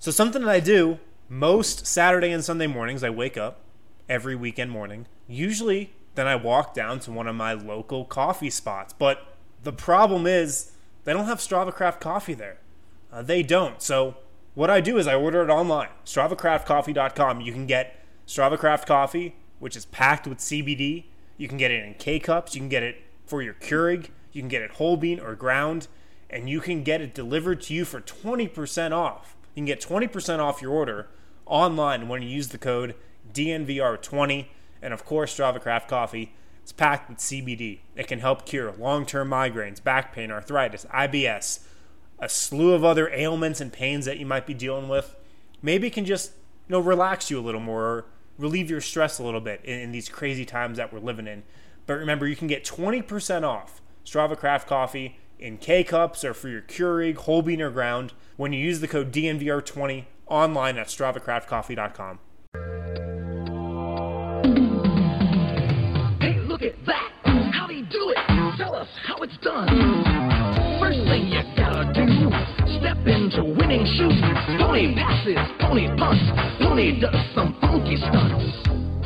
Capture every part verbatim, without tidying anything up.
So something that I do most Saturday and Sunday mornings, I wake up every weekend morning. Usually, then I walk down to one of my local coffee spots. But the problem is, they don't have Strava Craft coffee there. Uh, they don't. So what I do is I order it online, strava craft coffee dot com. You can get Strava Craft coffee, which is packed with C B D. You can get it in K-Cups. You can get it for your Keurig. You can get it whole bean or ground. And you can get it delivered to you for twenty percent off. You can get twenty percent off your order online when you use the code D N V R twenty. And of course, Strava Craft coffee, it's packed with C B D. It can help cure long-term migraines, back pain, arthritis, I B S, a slew of other ailments and pains that you might be dealing with. Maybe it can just, you know, relax you a little more, or relieve your stress a little bit in, in these crazy times that we're living in. But remember, you can get twenty percent off Strava Craft coffee in K-Cups or for your Keurig, whole bean or ground when you use the code D N V R twenty online at strava craft coffee dot com. Hey, look at that! How'd he do it? Tell us how it's done. First thing you gotta do, step into winning shoes. Pony passes, pony punts, pony does some funky stunts.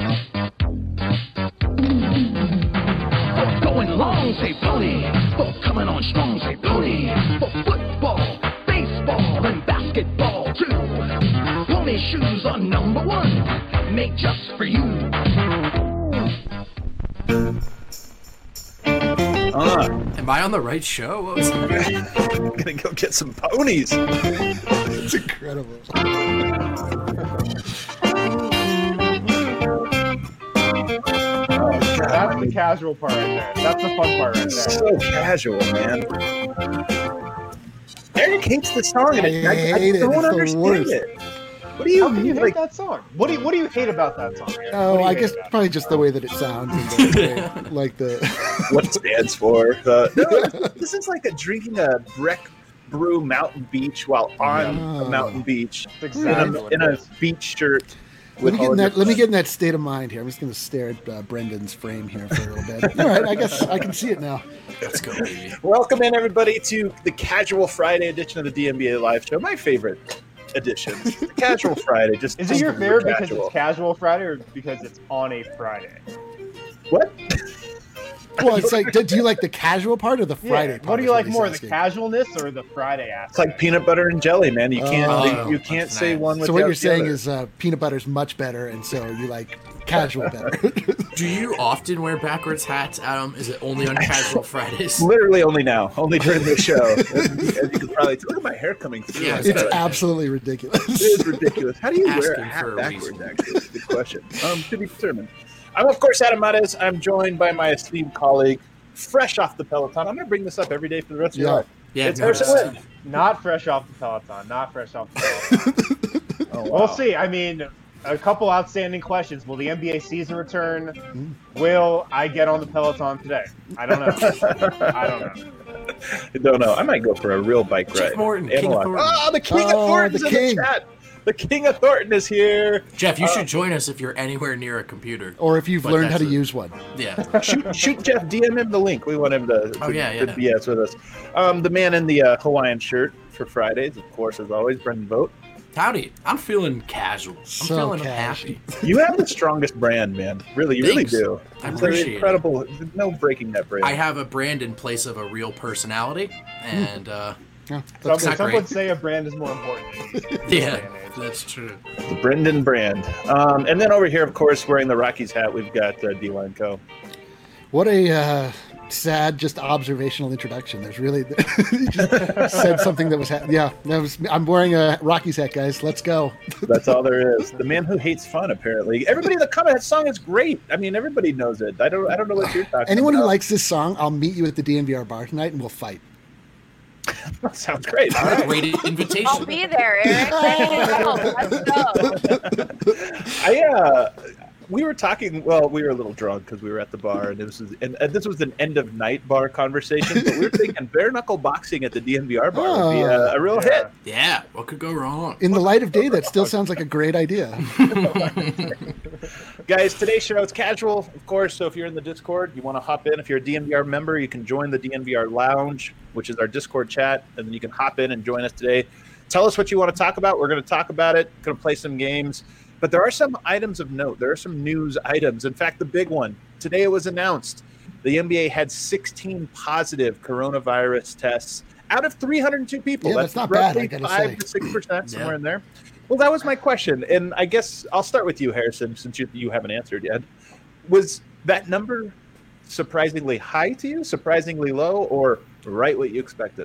For going long, say pony. For coming on strong, say pony. For football, baseball, and basketball too. Pony shoes are number one, made just for you. Uh, Am I on the right show? What was I'm gonna go get some ponies. It's incredible. That's the casual part right there. That's the fun part right there. So casual, man. Eric hates the song, and I I, I, hate I it. don't It's the understand worst. it. What do you, How can you hate like? that song? What do you What do you hate about that song? Aaron? What do Oh, you I hate guess about it? probably just the way that it sounds, and the, way- like the. What it stands for? Uh, no, this is like a drinking a Breck Brew Mountain Beach while on Oh. a mountain beach That's in exactly a, what in it a is. beach shirt. Let with me, get all in that, your- let me get in that state of mind here. I'm just going to stare at uh, Brendan's frame here for a little bit. All right, I guess I can see it now. Let's go, baby. Welcome in, everybody, to the Casual Friday edition of the D N B A Live Show. My favorite edition, the Casual Friday. Just Is it your super favorite because casual. it's casual Friday or because it's on a Friday? What? Well, it's like, do, do you like the casual part or the Friday Yeah. part? What do is you like he's more, the asking. casualness or the Friday aspect? It's like peanut butter and jelly, man. You can't Oh, you can't that's say nice. one without So what you're the saying other. is uh, peanut butter's much better, and so you like casual better. Do you often wear backwards hats, Adam? Is it only on casual Fridays? Literally only now, only during the show. As, as you can probably tell, look at my hair coming through. Yeah, my it's It's head. absolutely ridiculous. It is ridiculous. How do you wear a Asking hat for a backwards? reason. Actually, it's a good question. Um, to be determined. I'm of course Adam Mares. I'm joined by my esteemed colleague, fresh off the Peloton. I'm going to bring this up every day for the rest of your Yeah. life. Yeah, It's no, Harrison it's- Wind. Not fresh off the Peloton. Not fresh off the Peloton. Oh, wow. We'll see. I mean, a couple outstanding questions. Will the N B A season return? Will I get on the Peloton today? I don't know. I don't know. I don't know. I might go for a real bike Jeff ride. Morton, King of Analog. Thornton. Oh, the King Oh, of Thornton's the in king. the chat. The King of Thornton is here. Jeff, you Uh, should join us if you're anywhere near a computer. Or if you've But learned how that's to a- use one. Yeah. shoot, shoot Jeff, D M him the link. We want him to, to, Oh, yeah, yeah. to B S with us. Um, the man in the uh, Hawaiian shirt for Fridays, of course, as always, Brendan Vogt. Howdy. I'm feeling casual. I'm So feeling casual. happy. You have the strongest brand, man. Really, you Thanks. really do. I It's appreciate it. incredible. No breaking that brand. I have a brand in place of a real personality, and uh, Yeah, Some, that's not some great. would say a brand is more important. in this day yeah, and age. that's true. the Brendan brand. Um, and then over here, of course, wearing the Rockies hat, we've got uh, D-Line Co. What a uh, sad, just observational introduction. There's really you just said something that was ha- yeah. That was I'm wearing a Rockies hat, guys. Let's go. That's all there is. The man who hates fun, apparently. Everybody in the comment, that song is great. I mean, everybody knows it. I don't. I don't know what you're talking Anyone about. who likes this song, I'll meet you at the D N V R bar tonight, and we'll fight. Sounds great. All right. Great invitation. I'll be there, Eric. Let's go. I uh, we were talking. Well, we were a little drunk because we were at the bar, and this was and, and this was an end of night bar conversation. But we were thinking bare knuckle boxing at the D N V R bar would be a, a real Yeah. hit. Yeah, what could go wrong? In the light of day, that still sounds like a great idea. Guys, today's show is casual, of course. So if you're in the Discord, you want to hop in. If you're a D N V R member, you can join the D N V R Lounge, which is our Discord chat, and then you can hop in and join us today. tell us what you want to talk about. We're going to talk about it. Going to play some games. But there are some items of note. There are some news items. In fact, the big one, today it was announced, the N B A had sixteen positive coronavirus tests out of three hundred two people. Yeah, that's, that's not bad, I gotta five say. to six percent, somewhere Yeah. in there. Well, that was my question. And I guess I'll start with you, Harrison, since you, you haven't answered yet. Was that number surprisingly high to you, surprisingly low, or right what you expected?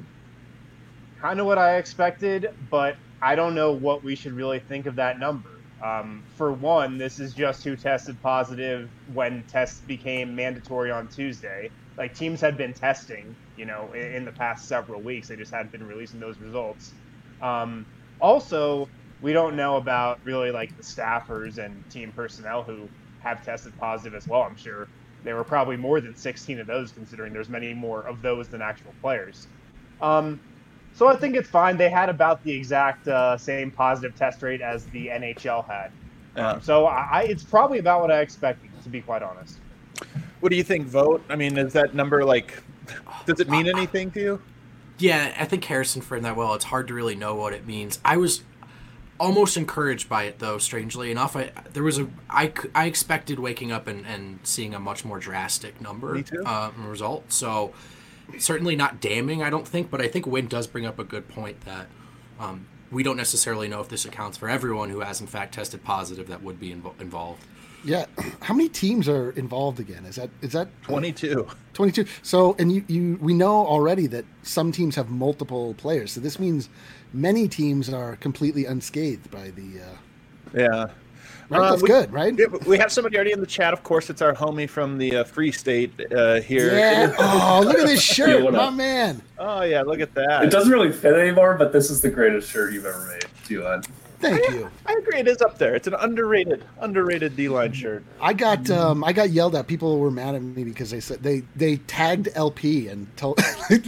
Kind of what I expected, but I don't know what we should really think of that number. Um, for one, this is just who tested positive when tests became mandatory on Tuesday. Like, teams had been testing, you know, in, in the past several weeks. They just hadn't been releasing those results. Um, also, we don't know about really like the staffers and team personnel who have tested positive as well. I'm sure there were probably more than sixteen of those, considering there's many more of those than actual players. Um, so I think it's fine. They had about the exact uh, same positive test rate as the N H L had. Yeah. So I, I, it's probably about what I expected, to be quite honest. What do you think, Vote? I mean, is that number like, does it mean anything to you? Yeah, I think Harrison framed that well. It's hard to really know what it means. I was almost encouraged by it, though. Strangely enough, I there was a I, I expected waking up and, and seeing a much more drastic number Me too. Uh, result. So certainly not damning, I don't think. But I think Wynn does bring up a good point that um, we don't necessarily know if this accounts for everyone who has in fact tested positive that would be invo- involved. Yeah. How many teams are involved again? Is that is that twenty-two. twenty-two. So, and you, you we know already that some teams have multiple players. So this means many teams are completely unscathed by the. Uh, Yeah. right? Uh, That's we- good, right? Yeah, we have somebody already in the chat. Of course, it's our homie from the uh, Free State uh, here. Yeah. Oh, look at this shirt, what my up? man. Oh, yeah, look at that. It doesn't really fit anymore, but this is the greatest shirt you've ever made, Juan. Thank you. I agree. It is up there. It's an underrated, underrated D-line shirt. I got um, I got yelled at. People were mad at me because they said they they tagged L P and told,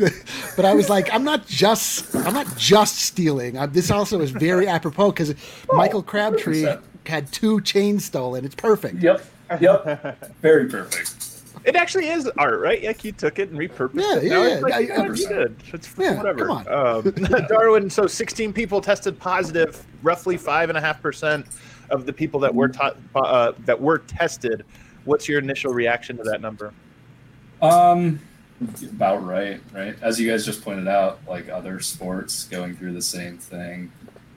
but I was like, I'm not just I'm not just stealing. I, this also is very apropos because Michael Crabtree one hundred percent. had two chains stolen. It's perfect. Yep. Yep. Very perfect. It actually is art, right? Like you took it and repurposed Yeah, it. yeah, Now yeah. it's like, I- yeah, I- it's good. It's Yeah, whatever. come on. Um, Darwin, so sixteen people tested positive. Roughly five and a half percent of the people that were ta- uh, that were tested. What's your initial reaction to that number? Um, about right, right? As you guys just pointed out, like other sports going through the same thing.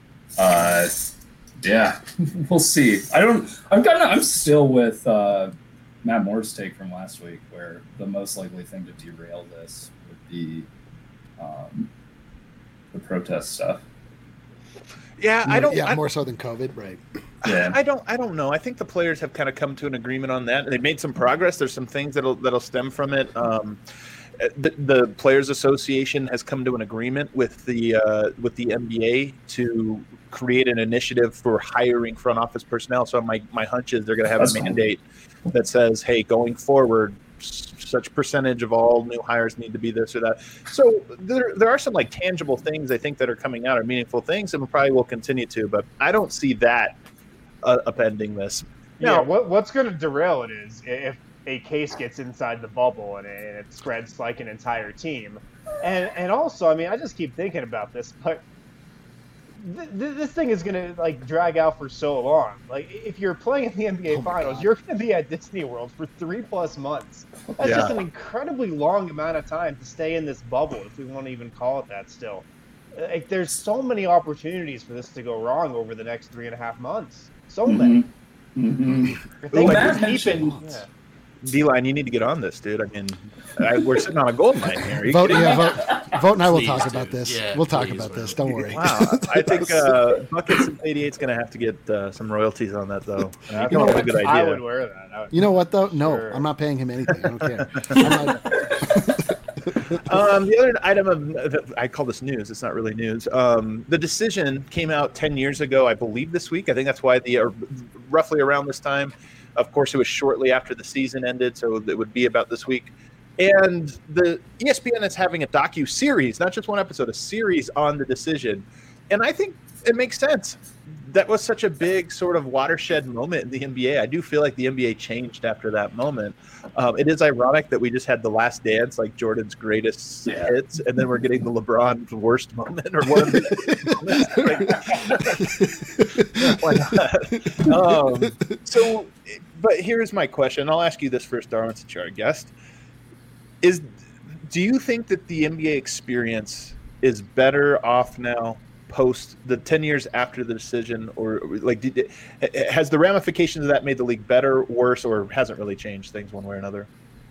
Uh, yeah, we'll see. I don't. I'm kind of. I'm still with uh, Matt Moore's take from last week, where the most likely thing to derail this would be um, the protest stuff. Yeah, I don't. Yeah, I, more so than COVID, right? Yeah. I don't. I don't know. I think the players have kind of come to an agreement on that. They've made some progress. There's some things that'll that'll stem from it. Um, the, the Players Association has come to an agreement with the uh, with the N B A to create an initiative for hiring front office personnel. So my my hunch is they're going to have That's a cool. mandate that says, hey, going forward, s- such percentage of all new hires need to be this or that. So there there are some like tangible things I think that are coming out, or meaningful things, and probably will continue to. But I don't see that uh, upending this. Yeah, Now, what, what's going to derail it is if a case gets inside the bubble and it, and it spreads like an entire team. And and also, I mean, I just keep thinking about this, but th- th- this thing is going to like drag out for so long. Like, if you're playing in the N B A Oh my Finals, God. you're going to be at Disney World for three plus months. That's Yeah. just an incredibly long amount of time to stay in this bubble, if we want to even call it that still. Like, there's so many opportunities for this to go wrong over the next three and a half months. So many. Mm-hmm. If they Ooh, keep Matt keeping- mentioned- yeah. D-line, you need to get on this, dude. I mean, I, we're sitting on a gold mine here. Are you Vote, kidding me? yeah, vote, vote, and I will Please, talk dude. about this. Yeah, we'll talk please, about this. Will. Don't worry. Wow, I think uh, Buckets eighty-eight is going to have to get uh, some royalties on that, though. I think You know that's a what? good I would idea. wear that. I would- You know what though? No, Sure. I'm not paying him anything. I don't care. I'm not, Um, the other item of that I call this news. It's not really news. Um, the decision came out ten years ago, I believe, this week. I think that's why the uh, roughly around this time. Of course, it was shortly after the season ended, so it would be about this week. And the E S P N is having a docu-series, not just one episode, a series on the decision. And I think it makes sense. that was such a big sort of watershed moment in the N B A. I do feel like the N B A changed after that moment. Um, it is ironic that we just had the Last Dance, like Jordan's greatest Yeah. hits, and then we're getting the LeBron worst moment or one of the moments. Like, um, so, but here's my question. I'll ask you this first, Darwin, since you're our guest. Is do you think that the N B A experience is better off now post the ten years after the decision, or like did it, has the ramifications of that made the league better, worse, or hasn't really changed things one way or another?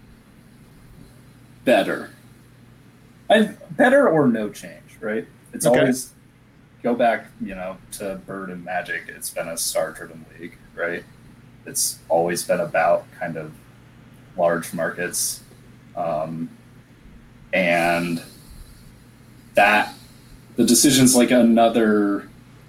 Better. I better or no change, right? It's Okay. always go back, you know, to Bird and Magic. It's been a star-driven league, right? It's always been about kind of large markets, um, and that the decision's like another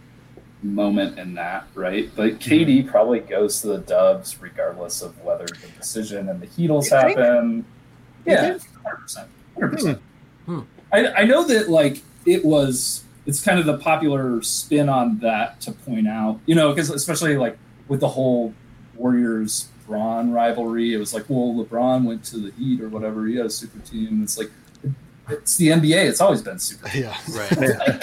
moment in that, right? But K D probably goes to the Dubs regardless of whether the decision and the Heatles You think? happen. You Yeah, think? one hundred percent. one hundred percent. Hmm. I, I know that, like, it was, it's kind of the popular spin on that to point out, you know, because especially, like, with the whole Warriors-Bron rivalry, it was like, well, LeBron went to the Heat or whatever. He had a super team. It's like, it's the N B A. It's always been super. Yeah. Right.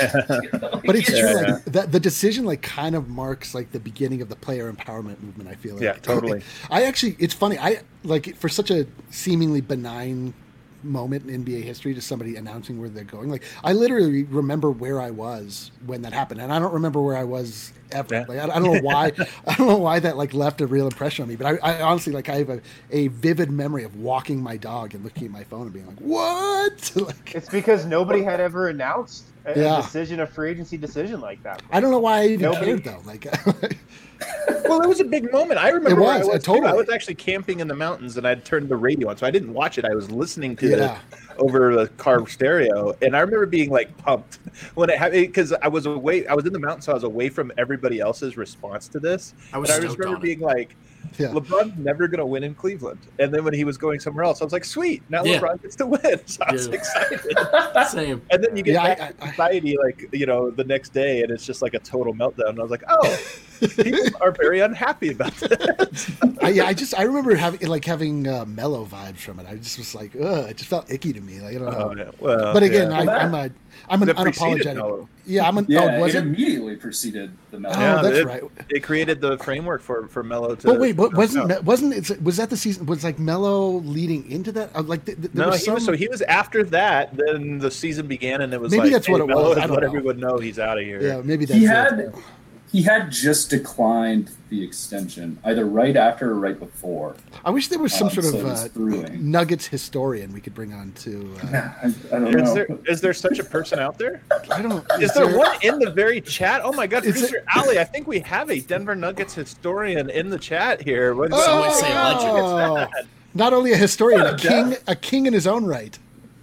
But it's true. Yeah. Like that, the decision like kind of marks like the beginning of the player empowerment movement. I feel like. Yeah, totally. I actually, it's funny. I like for such a seemingly benign moment in N B A history to somebody announcing where they're going. Like I literally remember where I was when that happened, and I don't remember where I was ever. Yeah. Like I, I don't know why. I don't know why that like left a real impression on me. But I, I honestly like I have a, a vivid memory of walking my dog and looking at my phone and being like, "What?" like It's because nobody had ever announced a, Yeah. a decision, a free agency decision like that. I don't know why I even Nobody- cared though. Like. Well, it was a big moment. I remember It where I was, was. uh, too. totally. I was actually camping in the mountains, and I'd turned the radio on, so I didn't watch it. I was listening to Yeah. it over the car stereo, and I remember being like pumped when it happened because I was away. I was in the mountains, so I was away from everybody else's response to this. I was and I just stoked remember on it. being like, Yeah. LeBron's never going to win in Cleveland. And then when he was going somewhere else, I was like, sweet, now Yeah. LeBron gets to win. So I was Yeah. excited. Same. And then you get Yeah, I- back to I- I- society, like, you know, the next day, and it's just like a total meltdown. And I was like, oh, people are very unhappy about this. I, yeah, I just I remember having like having uh, mellow vibes from it. I just was like, ugh, it just felt icky to me. Like I don't know. Oh, yeah. Well, But again, yeah. I, Well, I'm a I'm an That preceded unapologetic. Mellow. Yeah, I'm an. Yeah, oh, was it it? immediately preceded the Mellow. Oh, Yeah, that's it, right. It created the framework for for Mellow to. But wait, but to wasn't come out. Me- wasn't it was that the season? Was like Mellow leading into that? Uh, Like th- th- there No, was he some. was, so he was after that. Then the season began, and it was Maybe like, that's hey, what it Melo was, has I don't let know. everyone know he's out of here. yeah, maybe that's He it. had he had just declined the extension, either right after or right before. I wish there was some Um, sort so of it was uh, brewing. Nuggets historian we could bring on to. Uh, I, I don't Is know. there is there such a person out there? I don't. Is there one in the very chat? Oh my God, Is producer Ali, I think we have a Denver Nuggets historian in the chat here. What, Some would say legend. Oh, not only a historian, a king, a king in his own right.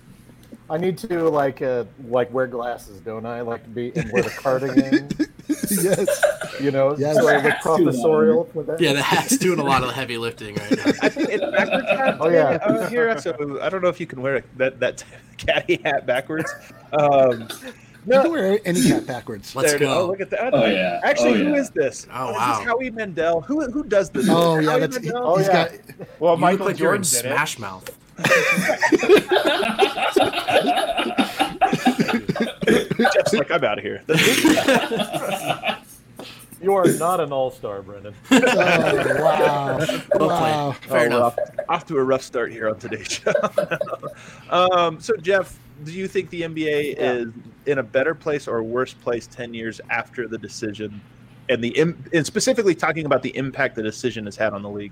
I need to like uh, like wear glasses, don't I? Like to be and wear the cardigan, Yes. you know, Yes. sort of like professorial with that. Yeah, the hat's doing a lot of the heavy lifting right now. I think it's backwards hat. Oh, yeah. uh, here. So I don't know if you can wear that that caddy hat backwards. Um, You no, can wear any hat backwards. Let's there it is. go. Oh, look at that. Oh, yeah. Actually, Oh, who yeah. is this? Oh, Is wow. this Howie Mandel? Who who does this? Oh Is it yeah, Howie that's Mandel? Oh, he's yeah. got. Well, You Michael look like you're in Jordan did it. Smash Mouth. Jeff's like, I'm out of here. You are not an all-star, Brendan. Oh, wow! Well Wow! played. Fair Oh, enough. rough. Off to a rough start here on today's show. um, so, Jeff, do you think the N B A Yeah. is in a better place or worse place ten years after the decision, and the im- and specifically talking about the impact the decision has had on the league?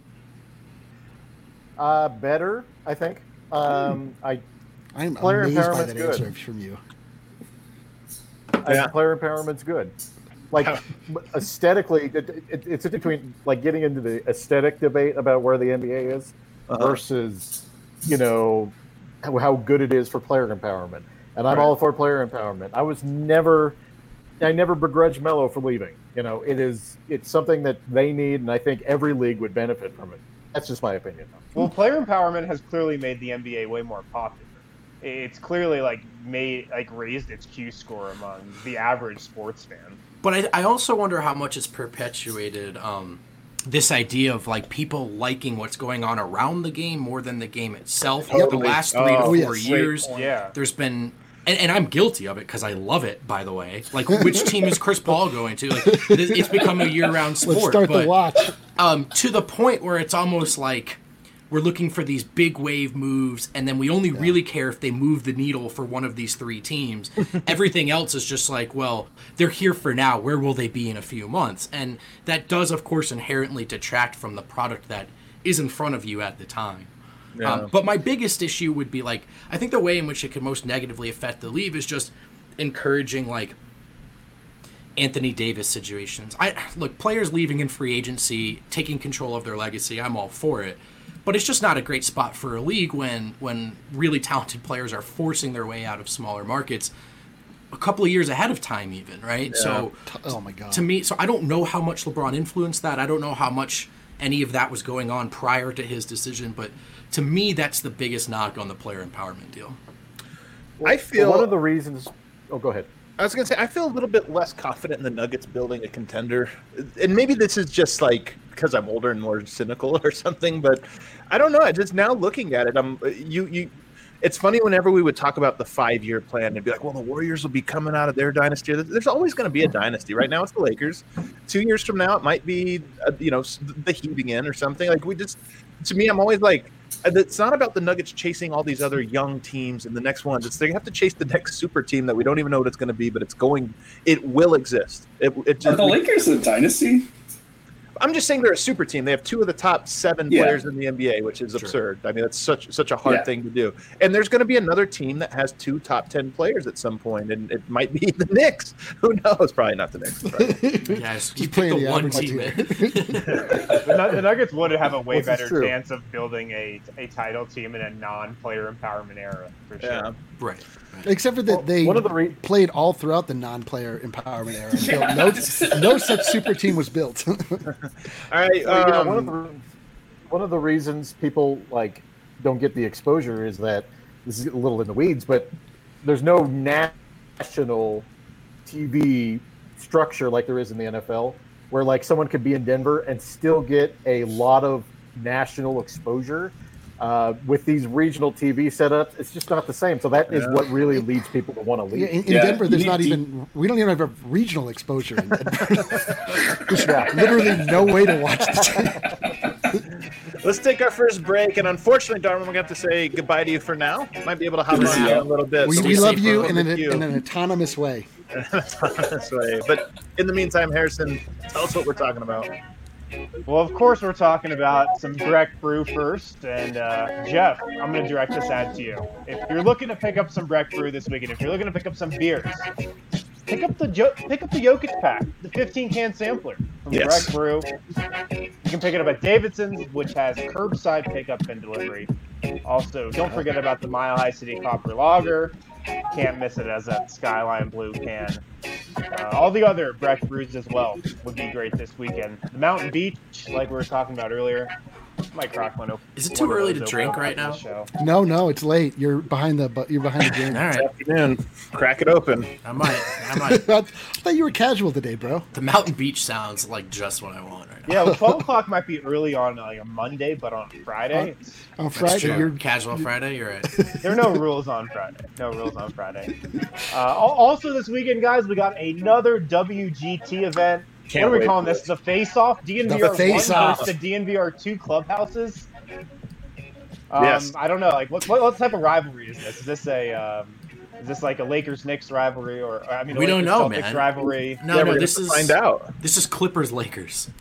Uh, better, I think. Um, I, I'm Player amazed by empowerment's that good. answer from you. I Yeah. think player empowerment's good. Like aesthetically, it, it, it's between like getting into the aesthetic debate about where the N B A is Uh-huh. versus, you know, how, how good it is for player empowerment. And I'm Right. all for player empowerment. I was never, I never begrudged Melo for leaving. You know, it is, it's something that they need, and I think every league would benefit from it. That's just my opinion. Well, player empowerment has clearly made the N B A way more popular. It's clearly like made like raised its Q score among the average sports fan. But I, I also wonder how much it's perpetuated um, this idea of like people liking what's going on around the game more than the game itself. Over the last three Oh, to four yes. years, Yeah. there's been, and, and I'm guilty of it because I love it. By the way, like which team is Chris Paul going to? Like it- it's become a year-round sport. Let's start but, the watch. um, to the point where it's almost like we're looking for these big wave moves, and then we only really care if they move the needle for one of these three teams. Everything else is just like, well, they're here for now. Where will they be in a few months? And that does, of course, inherently detract from the product that is in front of you at the time. Yeah. Um, but my biggest issue would be like, I think the way in which it could most negatively affect the league is just encouraging like Anthony Davis situations. I look, players leaving in free agency, taking control of their legacy. I'm all for it. But it's just not a great spot for a league when when really talented players are forcing their way out of smaller markets a couple of years ahead of time even, right? So Oh my god. to me, so I don't know how much LeBron influenced that. I don't know how much any of that was going on prior to his decision, but to me that's the biggest knock on the player empowerment deal. I feel one of the reasons. Oh, go ahead. I was gonna say I feel a little bit less confident in the Nuggets building a contender, and maybe this is just like because I'm older and more cynical or something. But I don't know. I just now looking at it, I'm you you. It's funny whenever we would talk about the five-year plan and be like, "Well, the Warriors will be coming out of their dynasty." There's always going to be a dynasty. Right now, it's the Lakers. Two years from now, it might be uh, you know the Heat again or something. Like we just, to me, I'm always like. It's not about the Nuggets chasing all these other young teams and the next ones. It's they have to chase the next super team that we don't even know what it's going to be, but it's going. It will exist. It, it Are just, the Lakers a dynasty? I'm just saying they're a super team. They have two of the top seven Yeah. players in the N B A, which is absurd. I mean, that's such such a hard Yeah. thing to do. And there's going to be another team that has two top ten players at some point, and it might be the Knicks. Who knows? Probably not the Knicks. Probably. Yes, Just you pick playing the the one average team. team. The, Nu- the Nuggets would have a way This is better true. chance of building a, a title team in a non-player empowerment era, for sure. Yeah. Right. Except for that Well, they one of the re- played all throughout the non-player empowerment era. Until no, no such super team was built. All right. Well, yeah, um, one of the one of the reasons people like don't get the exposure is that this is a little in the weeds, but there's no national T V structure like there is in the N F L, where like someone could be in Denver and still get a lot of national exposure. Uh, with these regional T V setups, it's just not the same. So that is Yeah. what really leads people to want to Yeah, leave. in, in Yeah, Denver, there's you not need- even we don't even have regional exposure in Denver. There's literally no way to watch the team. Let's take our first break, and unfortunately, Darwin, we're going to have to say goodbye to you for now. Might be able to hop Good to on see in you. a little bit. We, so we stay love safe, you bro. in an, With you. in an autonomous way. this way. But in the meantime, Harrison, tell us what we're talking about. Well, of course, we're talking about some Breck Brew first. And uh, Jeff, I'm going to direct this ad to you. If you're looking to pick up some Breck Brew this weekend, if you're looking to pick up some beers, pick up the jo- pick up the Jokic pack, the fifteen can sampler from Yes. Breck Brew. You can pick it up at Davidson's, which has curbside pickup and delivery. Also, don't forget about the Mile High City Copper Lager. Can't miss it as that Skyline Blue can. Uh, all the other Breck brews as well would be great this weekend. The Mountain Beach, like we were talking about earlier, might crack one open. Is it too one of early those to drink open right on now? the show. No, no, it's late. You're behind the bu- you're behind the game. All right. Afternoon, crack it open. I might. I might. I thought you were casual today, bro. The Mountain Beach sounds like just what I want right now. Yeah, well, twelve o'clock might be early on like a Monday, but on Friday, On That's Friday, true. you're Casual Friday. You're right. there are no rules on Friday. No rules on Friday. Uh, al- also this weekend, guys, we got another W G T event. Can't what are we wait calling for this? it. The face-off? D N V R The one face-off. versus the D N V R two clubhouses? Um, Yes. I don't know. Like, what, what, what type of rivalry is this? Is this a um, is this like a Lakers-Knicks rivalry, or I mean, a We don't know, Lakers-Celtics man. rivalry? No, yeah, no. we're This gonna is find out. This is Clippers Lakers.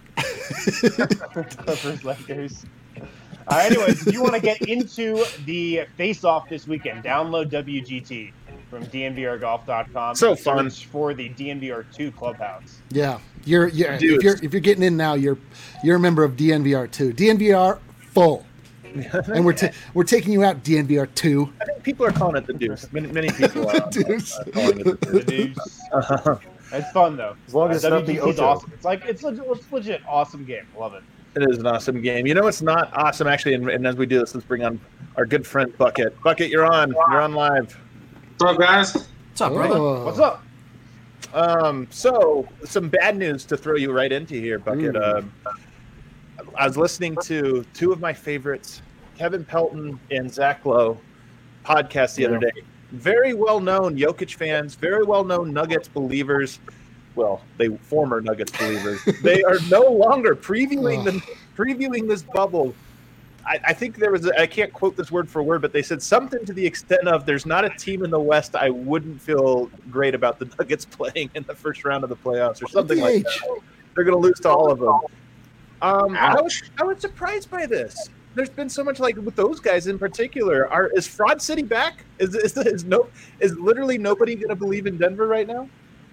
Clippers, Lakers. Uh, anyways, if you want to get into the face-off this weekend, download W G T from D N V R golf dot com. So and fun. search for the D N V R two clubhouse. yeah, you're yeah. Dude. If you're if you're getting in now, you're you're a member of D N V R two. D N V R full, and we're ta- we're taking you out D N V R two. I think people are calling it the Deuce. Many, many people are, Deuce. are calling it the The Deuce. Deuce. Uh-huh. It's fun though. As long as it's not the W G T is Ocho. awesome. It's like it's legit, it's legit awesome game. Love it. It is an awesome game. You know what's not awesome, actually, and, and as we do this, let's bring on our good friend Bucket. Bucket, you're on. You're on live. What's up, guys? What's up, brother? Oh. What's up? Um, so some bad news to throw you right into here, Bucket. Um, I was listening to two of my favorites, Kevin Pelton and Zach Lowe, podcast the yeah. other day. Very well known Jokic fans, very well known Nuggets believers. Well, they former Nuggets believers. They are no longer previewing the previewing this bubble. I, I think there was a, I can't quote this word for word, but they said something to the extent of "There's not a team in the West I wouldn't feel great about the Nuggets playing in the first round of the playoffs," or something like that. They're going to lose to all of them. Um, I was I was surprised by this. There's been so much, like with those guys in particular. Are is Fraud City back? Is is, is no is literally nobody going to believe in Denver right now?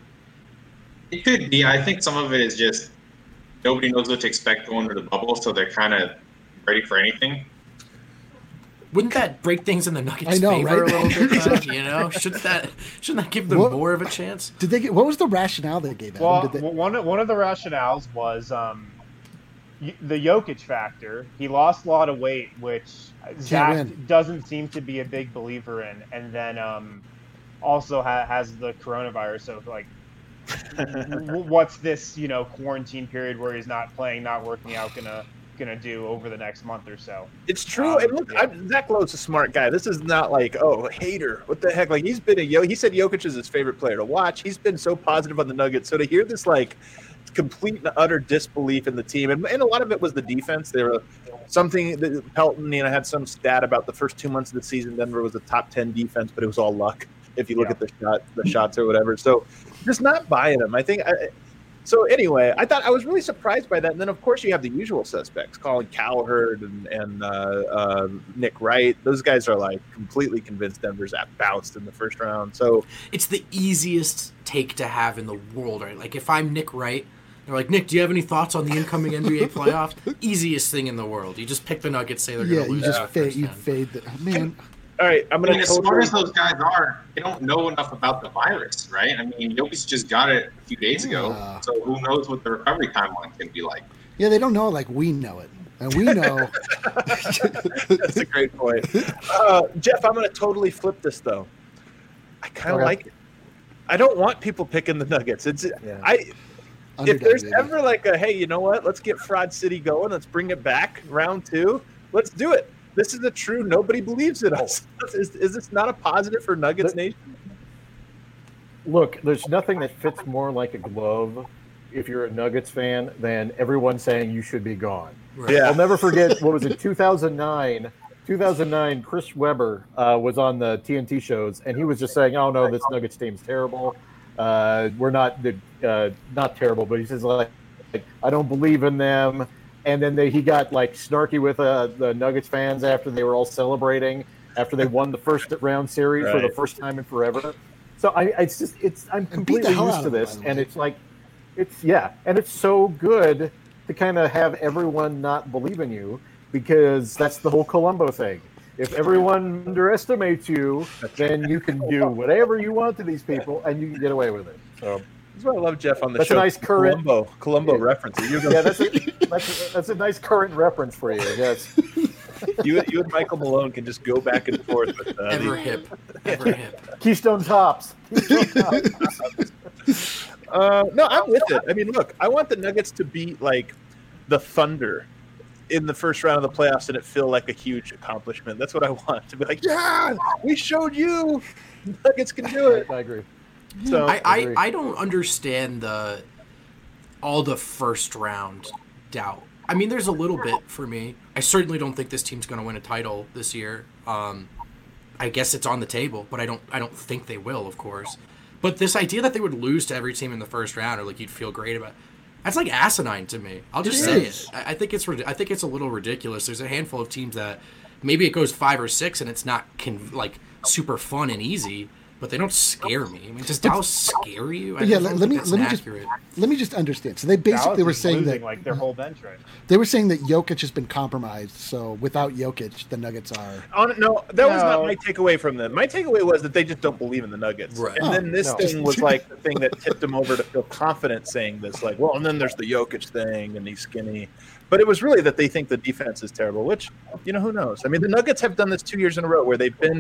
It could be. I think some of it is just nobody knows what to expect going to the bubble, so they're kind of ready for anything. Wouldn't that break things in the Nuggets' know, favor right? a little bit? Though, you know, shouldn't that shouldn't that give them What- more of a chance? Did they get? What was the rationale they gave? Adam? Well, Did they, one one of the rationales was um, y- the Jokic factor. He lost a lot of weight, which Zach win. doesn't seem to be a big believer in, and then um, also ha- has the coronavirus. So like, w- what's this? You know, quarantine period where he's not playing, not working out, gonna gonna do over the next month or so? It's true. Um, and look, yeah. I'm, Zach Lowe's a smart guy. This is not like, oh, hater. What the heck? Like, he's been a yo. He said Jokic is his favorite player to watch. He's been so positive on the Nuggets. So to hear this, like, complete and utter disbelief in the team, and, and a lot of it was the defense. They were something that Pelton, you know, had some stat about the first two months of the season. Denver was a top ten defense, but it was all luck if you look Yeah. at the shot, the shots or whatever. So just not buying him. I think. I, So anyway, I thought I was really surprised by that. And then, of course, you have the usual suspects, Colin Cowherd and, and uh, uh, Nick Wright. Those guys are like completely convinced Denver's at bounced in the first round. So It's the easiest take to have in the world, right? Like if I'm Nick Wright, they're like, Nick, do you have any thoughts on the incoming N B A playoffs? Easiest thing in the world. You just pick the Nuggets, say they're yeah, going to you lose. just the fade. first You round. fade. The, oh, man, all right, I'm I going mean, to as smart totally. as those guys are, they don't know enough about the virus, right? I mean, Jokic just got it a few days ago, Yeah. so who knows what the recovery timeline can be like. yeah, they don't know it like we know it, and we know. That's a great point. Uh, Jeff, I'm going to totally flip this though. I kind of Okay. like it. I don't want people picking the Nuggets. It's Yeah. I. If Underdog, there's baby. ever like a hey, you know what? Let's get Fraud City going. Let's bring it back round two. Let's do it. This is a true. Nobody believes in us. Is, is this not a positive for Nuggets The- Nation? Look, there's nothing that fits more like a glove if you're a Nuggets fan than everyone saying you should be gone. Right. Yeah. I'll never forget, what was it, two thousand nine? two thousand nine, Chris Webber uh, was on the T N T shows, and he was just saying, oh, no, this Nuggets team's terrible. Uh, we're not the uh, not terrible, but he says, like, I don't believe in them. And then they, he got, like, snarky with uh, the Nuggets fans after they were all celebrating, after they won the first round series for the Right. first time in forever. So I, it's just, it's, I'm And beat the completely hell used out to of them, this, by the and way. it's like, it's yeah, and it's so good to kind of have everyone not believe in you, because that's the whole Columbo thing. If everyone underestimates you, then you can do whatever you want to these people, and you can get away with it. So That's why I love Jeff on the That's a show. nice current- Columbo, Columbo Yeah. reference. You, yeah, that's a, that's, a, that's a nice current reference for you. Yes. you, you and Michael Malone can just go back and forth with uh, Ever these- hip. Ever hip. Keystone Tops. Keystone Tops. Uh, no, I'm with it. I mean, look, I want the Nuggets to beat like the Thunder in the first round of the playoffs, and it feel like a huge accomplishment. That's what I want to be like. Yeah, we showed you, Nuggets can do it. I agree. So I, I, Agree. I don't understand the all the first round doubt. I mean, there's a little bit for me. I certainly don't think this team's going to win a title this year. Um, I guess it's on the table, but I don't I don't think they will, of course. But this idea that they would lose to every team in the first round, or like you'd feel great about, that's like asinine to me. I'll just It say is. it. I I think it's rid- I think it's a little ridiculous. There's a handful of teams that maybe it goes five or six, and it's not con- like super fun and easy, but they don't scare me. I mean, does Dallas scare you? I But yeah, just let, don't let think me that's let me just accurate. let me just understand. So they basically Dallas were is saying losing, that like their whole bench right now. they were saying that Jokic has been compromised. So without Jokic, the Nuggets are. On, no, that was not No. my takeaway from them. My takeaway was that they just don't believe in the Nuggets. Right. And then this no. thing was like the thing that tipped them over to feel confident saying this, like, well, and then there's the Jokic thing, and he's skinny. But it was really that they think the defense is terrible, which, you know, who knows? I mean, the Nuggets have done this two years in a row where they've been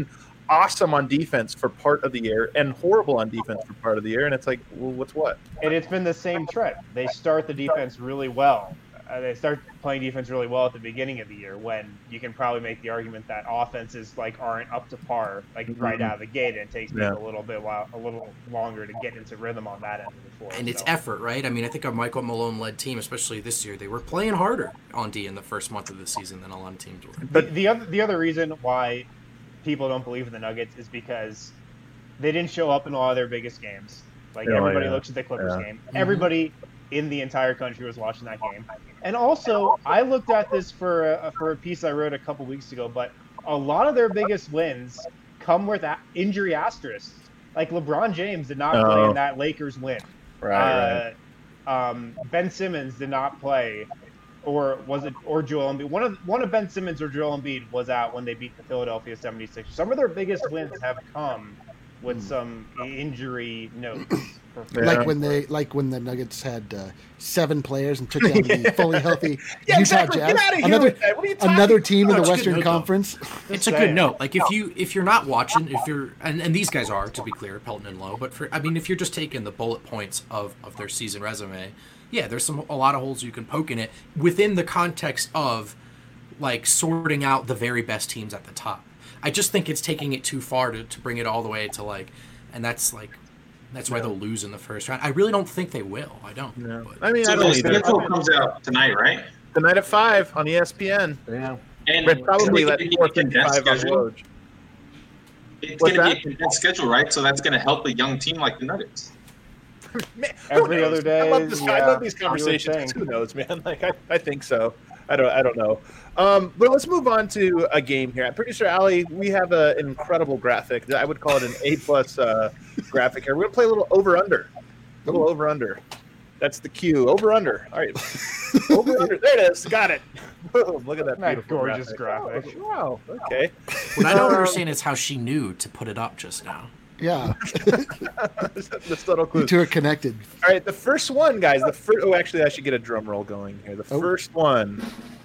awesome on defense for part of the year and horrible on defense for part of the year, and it's like, well, what's what? And it's been the same trend. They start the defense really well. Uh, they start playing defense really well at the beginning of the year, when you can probably make the argument that offenses like aren't up to par, like Mhm. right out of the gate, and it takes Yeah. people a little bit while a little longer to get into rhythm on that end of the floor. And it's so. effort, right? I mean, I think a Michael Malone-led team, especially this year, they were playing harder on D in the first month of the season than a lot of teams were. But the other the other reason why people don't believe in the Nuggets is because they didn't show up in all of their biggest games. Like Oh, everybody yeah. looks at the Clippers Yeah. game. Everybody in the entire country was watching that game. And also, I looked at this for a, for a piece I wrote a couple weeks ago, but a lot of their biggest wins come with a- injury asterisks. Like LeBron James did not play Oh. in that Lakers win. Right, Uh, um, Ben Simmons did not play, or was it, or Joel Embiid? One of one of Ben Simmons or Joel Embiid was out when they beat the Philadelphia seventy-sixers. Some of their biggest wins have come with some injury notes. For Yeah. Like when they, like when the Nuggets had uh, seven players and took down the fully healthy Yeah, Utah exactly. Jazz. Get out of here another with that. What are you talking another team in No, the it's a good Western note, though. Conference. It's a saying. good note. Like if you if you're not watching, if you're and, and these guys are, to be clear, Pelton and Lowe, but for I mean if you're just taking the bullet points of, of their season resume, yeah, there's some a lot of holes you can poke in it within the context of like sorting out the very best teams at the top. I just think it's taking it too far to, to bring it all the way to like and that's like that's why they'll lose in the first round. I really don't think they will. I don't. No. But- I mean, I So don't the either. schedule comes out tonight, right? Tonight at five on E S P N. Yeah. And But probably it's at gonna be four a condensed fifty-five on schedule. Woj. It's What's going to that? be a condensed schedule, right? So that's going to help a young team like the Nuggets. Man, who Every knows? other day, I love, this, I yeah, love these you would conversations. think. Who knows, man? Like I, I think so. I don't I don't know. Um, but let's move on to a game here. I'm pretty sure, Ali, we have a, an incredible graphic. I would call it an A plus uh, graphic here. We're gonna play a little over under. A little over under. That's the cue. Over under. All right. Over under. There it is. Got it. Boom. Look at that That beautiful gorgeous graphic. Oh, wow. Okay. What I don't Um, understand is how she knew to put it up just now. Yeah, the subtle clues. the two are connected. All right, the first one, guys. The first. Oh, actually, I should get a drum roll going here. The Oh. first one.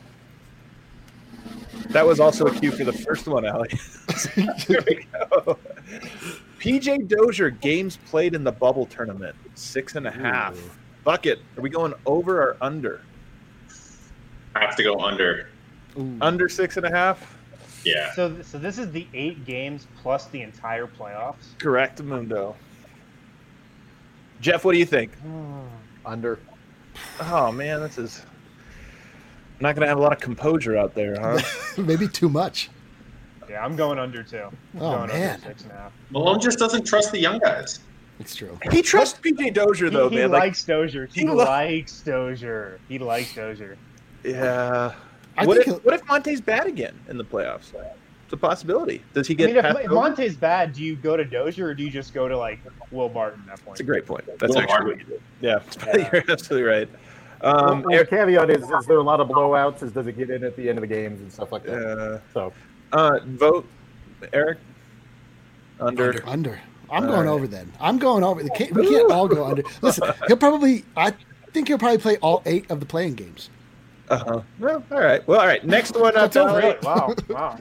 That was also a cue for the first one, Allie. Here we go. P J Dozier games played in the bubble tournament, six and a half. Ooh. Bucket. Are we going over or under? I have to go under. Ooh. Under six and a half. Yeah. So, so this is the eight games plus the entire playoffs. Correct, Mundo. Jeff, what do you think? Under. Oh man, this is not going to have a lot of composure out there, huh? Maybe too much. Yeah, I'm going under two. I'm Oh, going man. under six and a half. Malone just doesn't trust the young guys. It's true. He trusts P J Dozier He, though, he man. Like, likes Dozier. He, he lo- likes Dozier. He likes Dozier. yeah. I What think if, he'll- what if Monte's bad again in the playoffs? It's a possibility. Does he I get mean, if, past if over? Monte's bad, do you go to Dozier or do you just go to like Will Barton at that point? That's a great point. That's Will actually Barton. what you did. Yeah, Yeah. you're absolutely right. Um, well, the caveat is: is there a lot of blowouts? Is does it get in at the end of the games and stuff like that? uh, So uh, vote, Eric. Under. Under. Under. I'm All going right. over then. I'm going over. We can't, we can't all go under. Listen, he'll probably. I think he'll probably play all eight of the playing games. Uh-huh. Well, all right. Well, all right. Next one up. That's over. Allie. Really? Wow. Wow.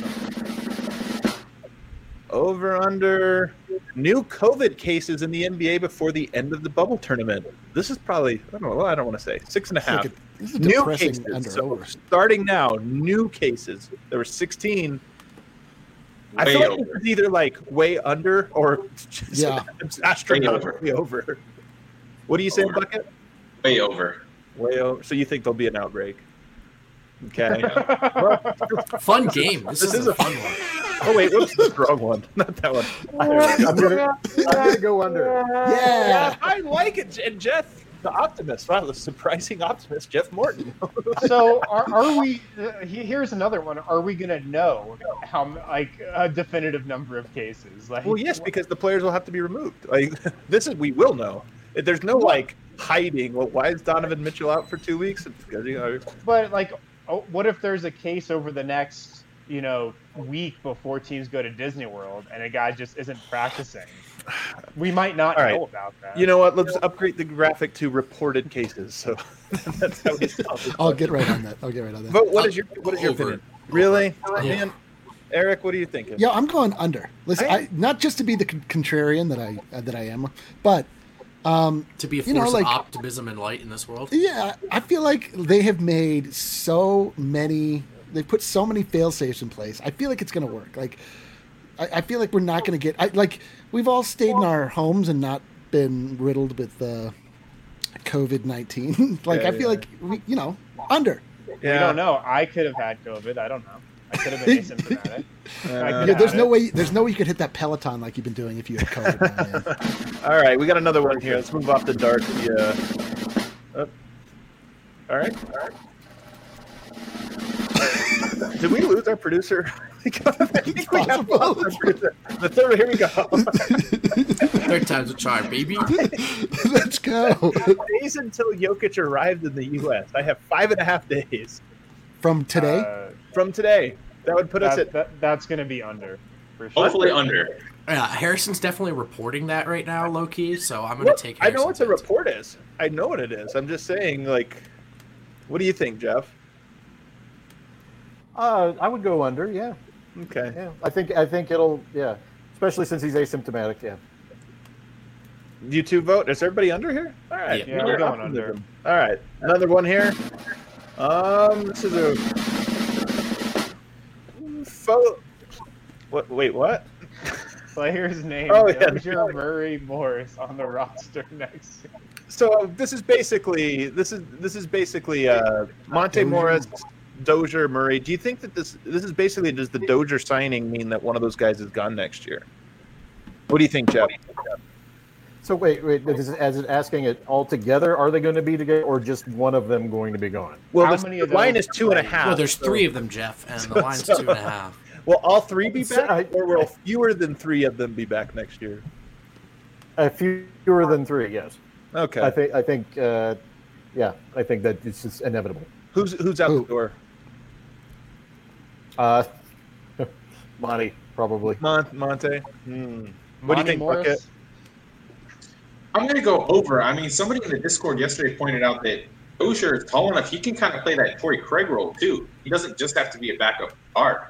Over under new COVID cases in the N B A before the end of the bubble tournament. This is probably I don't know. Well, I don't want to say six and a It's like half. a- this is a New depressing cases. under So over. starting now, new cases. There were sixteen. I Way feel like over. it's either like way under or just Yeah. astronomically over. What do you say, Over. Bucket? Way over. Way over. So you think there'll be an outbreak? Okay. Fun game. This, This is, is a a- fun one. Oh wait, whoops, that's the wrong one. Not that one. I'm gonna, I'm gonna go under. Yeah. I like it, and Jeff, the optimist. Wow, the surprising optimist, Jeff Morton. So are, are we? Uh, he- here's another one. Are we gonna know how m- like a definitive number of cases? Like, Well, yes, because the players will have to be removed. Like this is, we will know. There's no like hiding. Well, why is Donovan Mitchell out for two weeks? It's because you know. But like, oh, what if there's a case over the next, you know, week before teams go to Disney World and a guy just isn't practicing? We might not All right. know about that. You know what? Let's upgrade the graphic to reported cases. So that's how we solve it. I'll get right on that. I'll get right on that. But what is your what is your Over. opinion? Really, Yeah. man? Eric, what are you thinking? Yeah, I'm going under. Listen, I- I, not just to be the con- contrarian that I uh, that I am, but um, To be a you force know, like- of optimism and light in this world. yeah, I feel like they have made so many. They put so many fail safes in place. I feel like it's going to work. Like, I, I feel like we're not going to get. I, like, we've all stayed in our homes and not been riddled with uh, COVID nineteen. Like, Yeah, I feel yeah. like we, you know, under. We don't know. I could have had COVID. I don't know. I could have been asymptomatic. I could Yeah, have there's had no it. way. There's no way you could hit that Peloton like you've been doing if you had COVID. man. All right, we got another one here. Let's move off the dark. Yeah. Uh, all right. All right. Did we lose our producer? I think we have lost our producer. The third. Here we go. Third time's a charm, baby. Let's go. Days until Jokic arrived in the U S. I have five and a half days From today, Uh, from today. That would put us that, at. that, that's going to be under. For sure. Hopefully under. Yeah, Harrison's definitely reporting that right now, low key. So I'm gonna What? take. I know what Harrison's the answer. report is. I know what it is. I'm just saying, like, what do you think, Jeff? Uh, I would go under. Yeah, Okay. yeah. I think I think it'll. Yeah, especially since he's asymptomatic. Yeah. You two vote. Is everybody under here? All right. Yeah, You're we're going optimism. under. All right. Another one here. Um, this is a. Fo- what? Wait, what? Player's name: Oh, yeah. Dozier Murray Morris on the roster next. So this is basically this is this is basically uh, Monte Morris, Dozier, Murray. Do you think that this this is basically does the Dozier signing mean that one of those guys is gone next year? What do you think, Jeff? So wait, wait. Is it, as it asking it all together? Are they going to be together, or just one of them going to be gone? Well, How the, many the of line those is two and a are half. Well, there's so- three of them, Jeff, and the line's two and a half. Will all three be So, back, I- or will fewer than three of them be back next year? A few fewer than three. Yes. Okay. I think. I think. Uh, yeah. I think that it's just inevitable. Who's who's out Who? the door? Uh, Monty probably. Mon- Monte. Hmm. What do you Monty think, Morris? Bucket? I'm going to go over. I mean, somebody in the Discord yesterday pointed out that Dozier is tall enough. He can kind of play that Torrey Craig role, too. He doesn't just have to be a backup guard.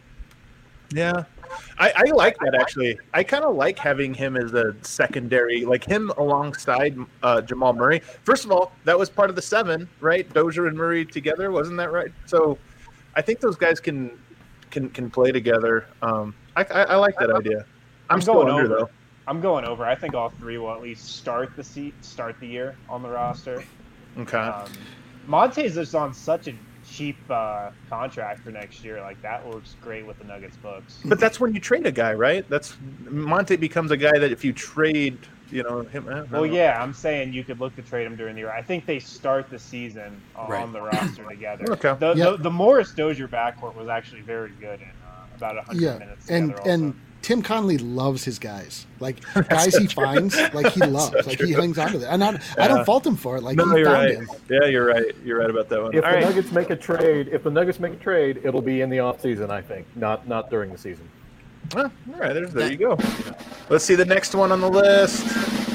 Yeah, I, I like that actually. I kind of like having him as a secondary, like him alongside uh, Jamal Murray. First of all, that was part of the seven, right? Dozier and Murray together, wasn't that right? So, I think those guys can can can play together. Um, I, I, I like that idea. I'm, I'm still going under over. though. I'm going over. I think all three will at least start the seat, start the year on the roster. Okay. Um, Monte's just on such a cheap uh, contract for next year. Like that works great with the Nuggets books. But that's when you trade a guy, right? That's Monte becomes a guy that if you trade, you know him. I don't Well, know. yeah, I'm saying you could look to trade him during the year. I think they start the season on Right. the roster together. Okay. The, Yeah. the, the Morris Dozier backcourt was actually very good in uh, about one hundred yeah, minutes and together. and also. Tim Conley loves his guys. Like guys he finds, like he loves, like he hangs on to them. And I, I don't fault him for it. Like No, he you're found right. him. Yeah, you're right. You're right about that one. If All the right. Nuggets make a trade, if the Nuggets make a trade, it'll be in the off season. I think, not not during the season. Ah, all right, there's, there you go. Let's see the next one on the list.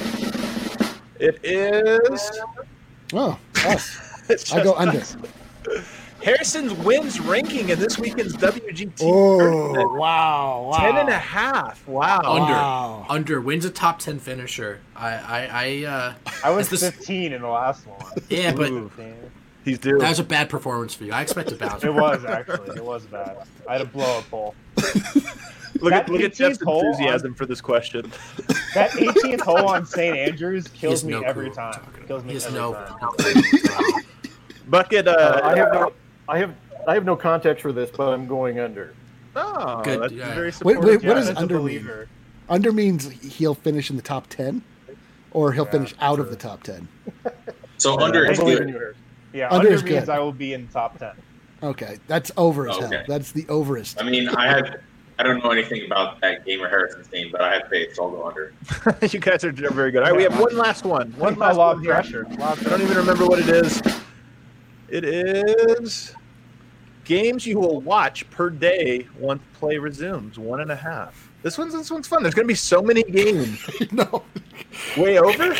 It is. Oh, us. It's I go just under. us. Harrison's wins ranking in this weekend's W G T. Oh, tournament. wow, wow. Ten and a half. Wow. Under. Wow. Under. Wins a top ten finisher. I, I, I, uh, I was is this- fifteen in the last one. yeah, but Ooh. He's due. that was a bad performance for you. I expect a bounce. It was actually. It was bad. I had a blow up hole. Look at that look at eighteenth Jeff's hole on- enthusiasm for this question. That eighteenth hole on Saint Andrews He kills has me no every clue what time. I'm talking Kills about. me He has every no time. Bucket. Uh, Uh, I have no, I have, I have no context for this, but I'm going under. Oh, Good, that's yeah. very Wait, supportive. wait, what Yeah, does that's a under mean? believer. Under means he'll finish in the top ten, or he'll Yeah, finish out of the top ten. So under I is believe good. in you. Yeah, Under under, is means good. I will be in the top ten. Okay, that's over as Oh, hell. okay. That's the overest. I mean, I had. I don't know anything about that Gamer Harrison's name, but I had faith, so I'll go under. You guys are very good. All right, we have one last one. One One last law one of here. pressure. Law of I don't even remember what it is. It is games you will watch per day once play resumes. One and a half. This one's this one's fun. There's going to be so many games. No. Way over.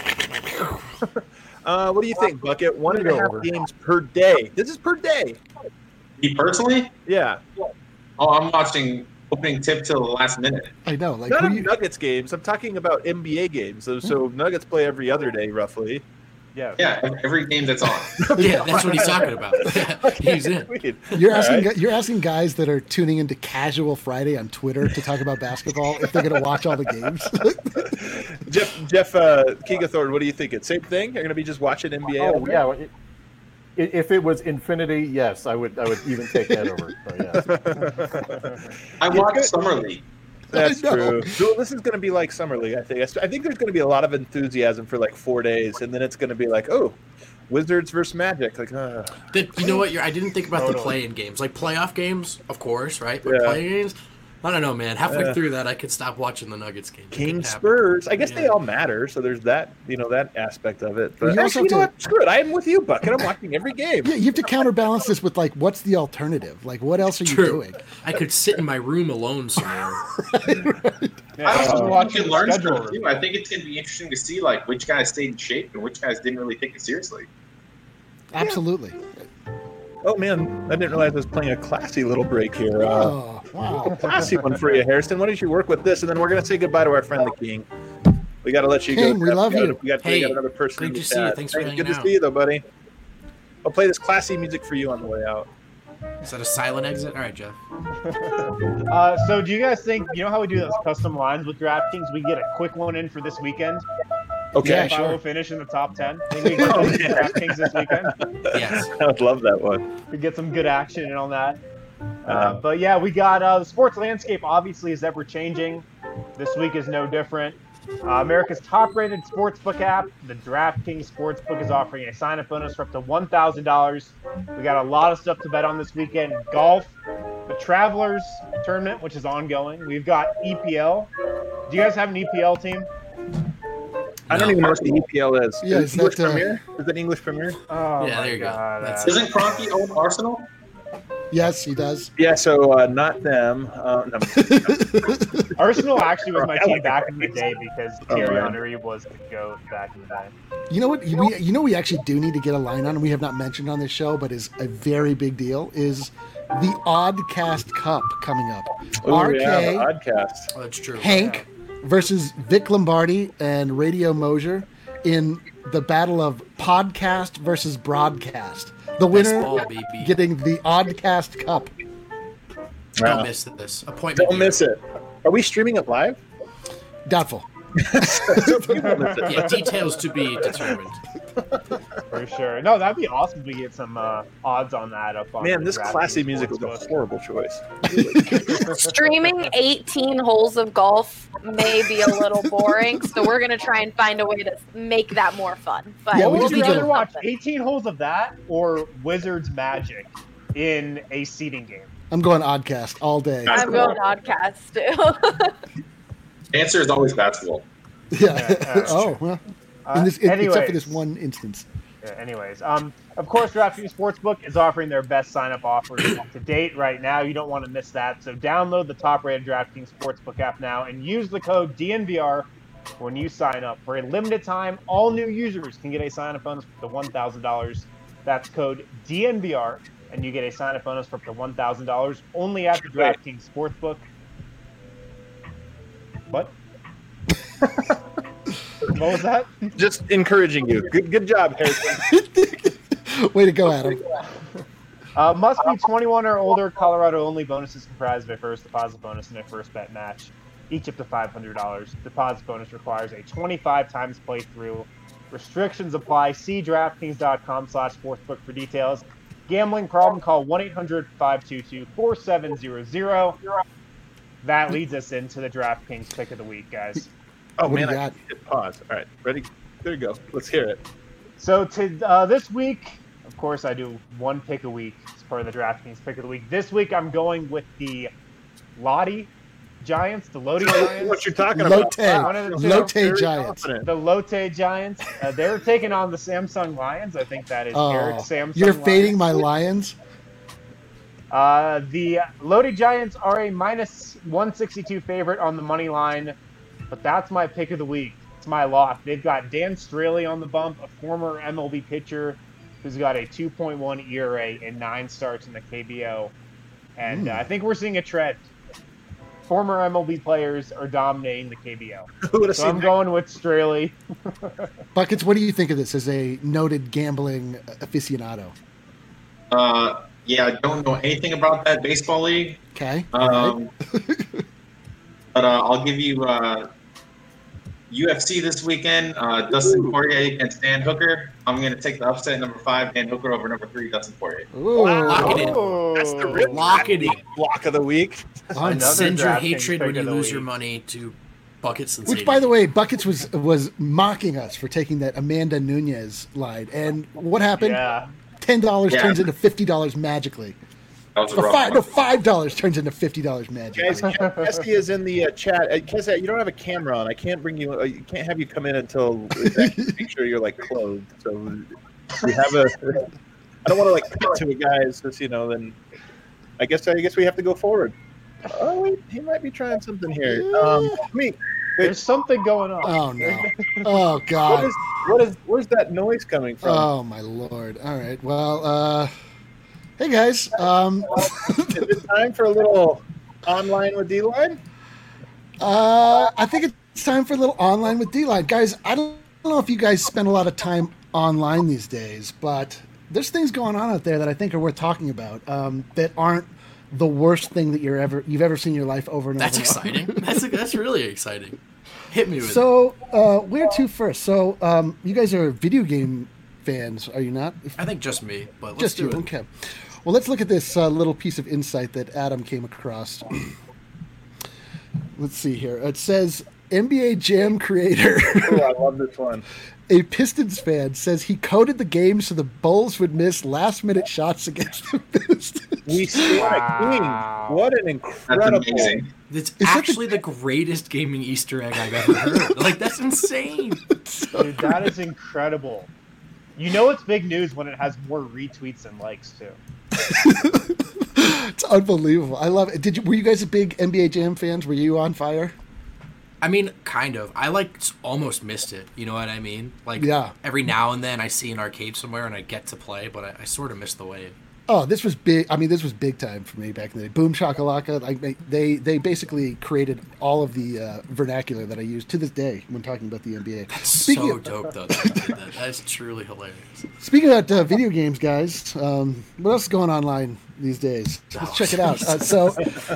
uh, what do you think, Bucket? One and a Go half over. games per day. This is per day. Me personally, Yeah. oh, I'm watching opening tip till the last minute. I know, like Not who of you, Nuggets games. I'm talking about N B A games. So, so Nuggets play every other day, roughly. Yeah. Yeah, every game that's on. Yeah, that's what he's talking about. He's in. you're asking All right. gu- you're asking guys that are tuning into Casual Friday on Twitter to talk about basketball if they're going to watch all the games. Jeff Jeff uh, Keegathorne, what do you think? It's same thing? You're going to be just watching N B A? Oh all day? yeah. It, i- if it was Infinity, yes, I would. I would even take that over. So, yes. I watched Summer League. That's I know. true. So this is going to be like Summer League, I think. I think there's going to be a lot of enthusiasm for like four days, and then it's going to be like, oh, Wizards versus Magic. Like, uh, The, you know what? You're, I didn't think about the Totally. play-in games, like playoff games, of course, right? But Yeah. play-in games, I don't know, man. Halfway Yeah. through that, I could stop watching the Nuggets game. It King could happen. Spurs. I guess Yeah. they all matter, so there's that, you know, that aspect of it. But You also actually, you know have what? Screw it. I'm with you, Bucket. I'm watching every game. Yeah, you have to counterbalance this with like, what's the alternative? Like, what else are you True. doing? I could sit in my room alone somewhere. Yeah, I also I'm think watching you can learn the schedule stuff too. I think it's going to be interesting to see like which guys stayed in shape and which guys didn't really take it seriously. Absolutely. Oh, man. I didn't realize I was playing a classy little break here. Uh, Oh, wow. classy one for you, Harrison. Why don't you work with this? And then we're going to say goodbye to our friend, the King. We got to let you King, go. we love we got, you. We got, we Hey, got another person great in the to see you. chat. Thanks for Hey, hanging Good to out. see you, though, buddy. I'll play this classy music for you on the way out. Is that a silent exit? All right, Jeff. Uh, so do you guys think, you know how we do those custom lines with DraftKings? We get a quick one in for this weekend. Okay. Yeah, If I sure. will finish in the top ten. Think we get those DraftKings this weekend. Yes. I would love that one. We get some good action in on that. Uh, Uh, but yeah, we got uh, the sports landscape obviously is ever changing. This week is no different. Uh, America's top-rated sportsbook app, the DraftKings Sportsbook, is offering a sign-up bonus for up to one thousand dollars. We got a lot of stuff to bet on this weekend. Golf, the Travelers Tournament, which is ongoing. We've got E P L. Do you guys have an E P L team? I don't No. even know what the E P L is. Yeah, is is English that, uh, Premier? Is that English Premier? Oh Yeah, my there you go. God, That's uh, it. Doesn't Cronky own Arsenal? Yes, he does. Yeah, so uh, not them. Uh, no. Arsenal actually was my team back in the day because Oh, Thierry man. Henry was the GOAT back in the day. You know what? We, you know, we actually do need to get a line on, and we have not mentioned on this show, but is a very big deal. Is the Oddcast Cup coming up? Ooh, R K, yeah, the Oddcast. Oh, that's true. Hank versus Vic Lombardi and Radio Mosier in the battle of podcast versus broadcast. The winner ball, baby. getting the Oddcast Cup. Don't Wow. miss this. Appointment. Don't here. miss it. Are we streaming it live? Doubtful. Yeah, details to be determined. For sure. No, that'd be awesome if we get some uh, odds on that up on Man, the this DraftKings classy music was a Sportsbook. horrible choice. Streaming eighteen holes of golf may be a little boring, so we're gonna try and find a way to make that more fun. But Yeah, What we would just you need to- rather watch, eighteen holes of that or Wizards Magic in a seeding game? I'm going Oddcast all day. I'm going podcast too. Answer is always basketball. Yeah. Yeah, oh, well. Uh, In this, except for anyways. this one instance. Yeah, anyways, um, of course, DraftKings Sportsbook is offering their best sign-up offers to date right now. You don't want to miss that. So download the top-rated DraftKings Sportsbook app now and use the code D N V R when you sign up. For a limited time, all new users can get a sign-up bonus for up to one thousand dollars. That's code D N V R, and you get a sign-up bonus for up to one thousand dollars only at the DraftKings Sportsbook. What? What was that? Just encouraging you. Good, good job, Harrison. Way to go, Adam. Uh, must be twenty-one or older. Colorado only. Bonuses comprised of a first deposit bonus and a first bet match, each up to five hundred dollars. Deposit bonus requires a twenty-five times playthrough. Restrictions apply. See DraftKings.com slash sportsbook for details. Gambling problem? Call one eight hundred five two two four seven zero zero. That leads us into the DraftKings pick of the week, guys. Oh, What do man, you I got? hit pause. All right, ready? There you go. Let's hear it. So to uh, this week, of course, I do one pick a week as part of the DraftKings pick of the week. This week, I'm going with the Lottie Giants, the Lodi Giants. What you're talking about? Lotte. One of the two. Lotte Very Giants. confident. The Lotte Giants. Uh, they're taking on the Samsung Lions. I think that is Eric's Oh, Samsung you're Lions. fading my Lions? Uh, the Lodi Giants are a minus one sixty-two favorite on the money line, but that's my pick of the week. It's my lock. They've got Dan Straley on the bump, a former M L B pitcher who's got a two point one E R A and nine starts in the K B O. And uh, I think we're seeing a trend. former M L B players are dominating the K B L. Who would have So seen I'm that? going with Straley. Buckets, what do you think of this as a noted gambling aficionado? Uh, yeah, I don't know anything about that baseball league. Okay. Um, but uh, I'll give you uh, U F C this weekend. Uh, Dustin Poirier against Dan Hooker. I'm going to take the upset number five, Dan Hooker over number three, Dustin Poirier. Ooh. Lock it in. Oh, That's the real Lock it in. block of the week. Another Send your DraftKings hatred pick when you of the lose week. your money to Buckets and Which, by the way, Buckets was was mocking us for taking that Amanda Nunez line. And what happened? Yeah. ten dollars Yeah. turns into fifty dollars magically. That was a Or rough five, no, one. five dollars turns into fifty dollars magically. Guys, Kesty is in the uh, chat. Uh, Kesty, you don't have a camera on. I can't bring you. Uh, you can't have you come in until make sure you're like clothed. So we have a. I don't want to like cut to a guy. So you know, then I guess I guess we have to go forward. Oh wait, he might be trying something here. Um, me. There's something going on. Oh no! Oh What god! is what is where's that noise coming from? Oh my lord! All right. Well, uh, hey guys. Um, Is it time for a little online with D-Line? uh, I think it's time for a little online with D-Line, guys. I don't know if you guys spend a lot of time online these days, but there's things going on out there that I think are worth talking about. Um, that aren't the worst thing that you're ever you've ever seen in your life over and That's over. and over. exciting. That's that's really exciting. Hit me with it. So, uh, where to first? So, um, you guys are video game fans, are you not? I think just me, but let's Just do you, it. okay. Well, let's look at this uh, little piece of insight that Adam came across. Let's see here. It says N B A Jam creator, Oh, I love this one. a Pistons fan, says he coded the game so the Bulls would miss last-minute shots against the Pistons. We stand Wow. a king. What an That's incredible! amazing. It's Is that actually the greatest gaming Easter egg I've ever heard. Like, that's insane. Dude, that is incredible. You know it's big news when it has more retweets and likes too. It's unbelievable. I love it. Did you? Were you guys a big N B A Jam fans? Were you on fire? I mean, kind of. I like s- almost missed it. You know what I mean? Like, Yeah. every now and then I see an arcade somewhere and I get to play, but I, I sort of miss the wave. Oh, this was big. I mean, this was big time for me back in the day. Boom Shakalaka. Like they, they basically created all of the uh, vernacular that I use to this day when talking about the N B A. So dope, though. That you did that. That is truly hilarious. Speaking about uh, video games, guys, um, what else is going online these days? Let's check it out. Uh, so,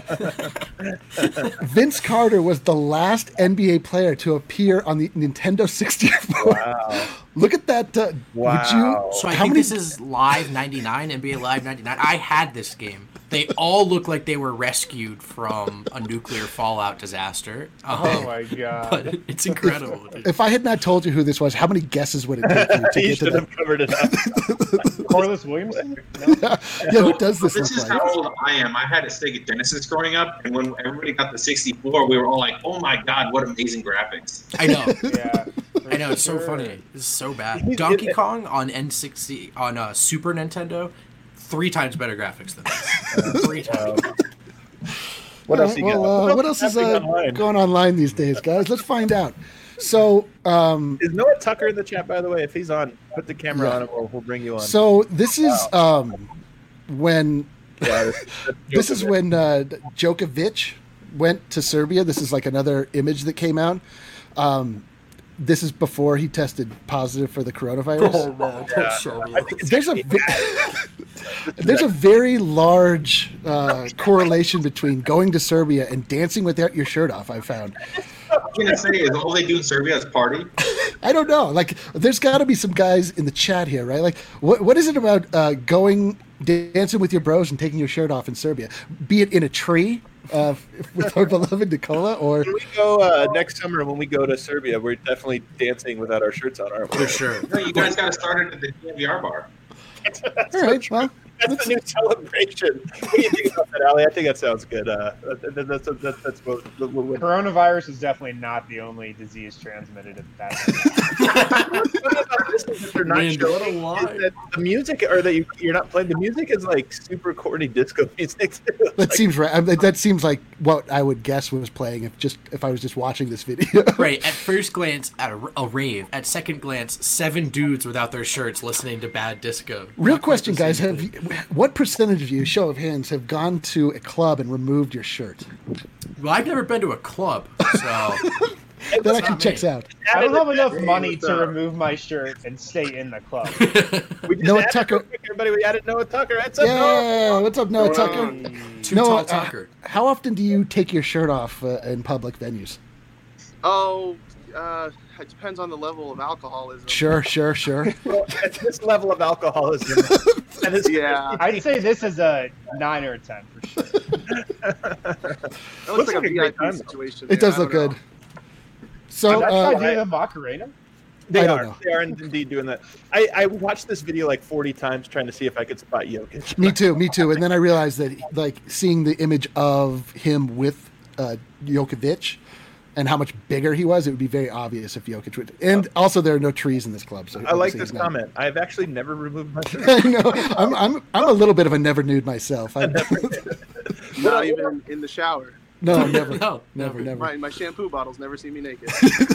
Vince Carter was the last N B A player to appear on the Nintendo sixty-four. Wow. Look at that. Uh, Wow. Would you? So I how think many- this is Live ninety-nine, N B A Live ninety-nine. I had this game. They all look like they were rescued from a nuclear fallout disaster. Um, Oh my god. But it's incredible. dude. If I had not told you who this was, how many guesses would it take you to You get to should that? have covered it up. Corliss Williamson? No? Yeah, who does this This look is like? how old I am. I had a Sega Genesis growing up, and when everybody got the sixty-four, we were all like, "Oh my god, what amazing graphics!" I know. Yeah. I know. It's so Sure. funny. This is so bad. Donkey Kong on N sixty on uh, Super Nintendo, three times better graphics than this. three times. What else you well, got? uh, what else is uh, happening online? going online these days, guys? Let's find out. So, um, Is Noah Tucker in the chat, by the way? If he's on, put the camera Yeah. on and we'll, we'll bring you on. so this is um, when Yeah, that's- that's this is Djokovic. when uh, Djokovic went to Serbia. This is like another image that came out. Um, this is before he tested positive for the coronavirus. Oh, man. That's so real. There's a ve- there's a very large uh, correlation between going to Serbia and dancing without your shirt off. I found. I was gonna say is all they do in Serbia is party. I don't know. Like, there's got to be some guys in the chat here, right? Like, what what is it about uh, going dancing with your bros and taking your shirt off in Serbia? Be it in a tree uh, with our beloved Nicola, or When we go uh, next summer, when we go to Serbia, we're definitely dancing without our shirts on, aren't we? For sure. No, you guys got to start it at the D M V R bar. That's all right, well, That's a new celebration. What do you think about that, Ali? I think that sounds good. Uh, that, that, that's that's that's what, what, what, Coronavirus is definitely not the only disease transmitted at that. They're not Randy, showing what a is lie. that the music, or that you, you're not playing. The music is like super corny disco music. Too. that Like, seems right. I mean, that seems like what I would guess was playing if just if I was just watching this video. Right. At first glance, at a, a rave. At second glance, seven dudes without their shirts listening to bad disco. Real Not quite question, the guys: same Have you, thing. what percentage of you, show of hands, have gone to a club and removed your shirt? Well, I've never been to a club, so That actually checks out. I don't have enough Hey, money what's to up? remove my shirt and stay in the club. We just Noah added Tucker- real quick, everybody. We added Noah Tucker. That's up, Noah. Yeah, what's up, Noah Tucker? Too Noah, tall uh, Tucker. how often do you take your shirt off uh, in public venues? Oh, uh, it depends on the level of alcoholism. Sure, sure, sure. Well, at this level of alcoholism, that is, Yeah. I'd say this is a nine or a ten for sure. That looks, Looks like, like a a V I great P time. situation. It there. does I look don't good. know. So, That's uh, uh, idea of Macarena. they I don't are. know. They are indeed doing that. I, I watched this video like forty times trying to see if I could spot Jokic. me too, me too. And then I realized that, like, seeing the image of him with uh, Jokovic and how much bigger he was, it would be very obvious if Jokic would. And also, there are no trees in this club. So I like obviously this he's not- comment. I've actually never removed my shirt. I know. I'm, I'm, I'm a little bit of a never nude myself. I, Not even in, in the shower. no, never, No, never, never. My, my shampoo bottles never see me naked.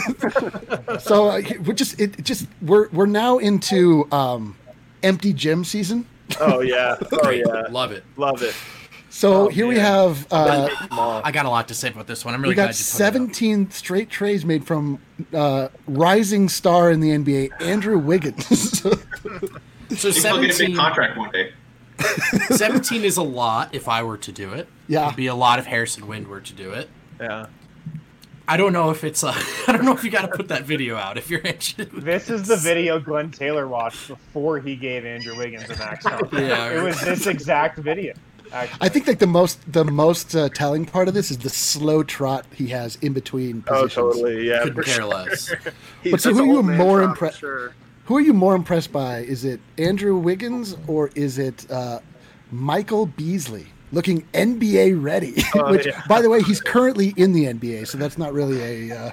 So uh, we're just, it it just, we're we're now into um, empty gym season. Oh yeah. Oh yeah. Love it. Love it. So Oh, here we man. have. Uh, I got a lot to say about this one. I'm really we got glad you put it up. seventeen straight trays made from uh, rising star in the N B A, Andrew Wiggins. So He's still getting a big seventeen, contract one day. seventeen is a lot if I were to do it. Yeah. It'd be a lot if Harrison Wind were to do it. Yeah. I don't know if it's. Uh, I don't know if you got to put that video out if you're interested. This is the video Glenn Taylor watched before he gave Andrew Wiggins a max contract. Yeah. It was this exact video. Actually. I think like the most the most uh, telling part of this is the slow trot he has in between Oh, positions. totally. Yeah. Couldn't for care sure. less. He's But so That's who an are you old man more drop, impressed? Sure. Who are you more impressed by? Is it Andrew Wiggins or is it uh, Michael Beasley? Looking N B A ready, Oh, which, yeah. by the way, he's currently in the N B A, so that's not really a. Uh,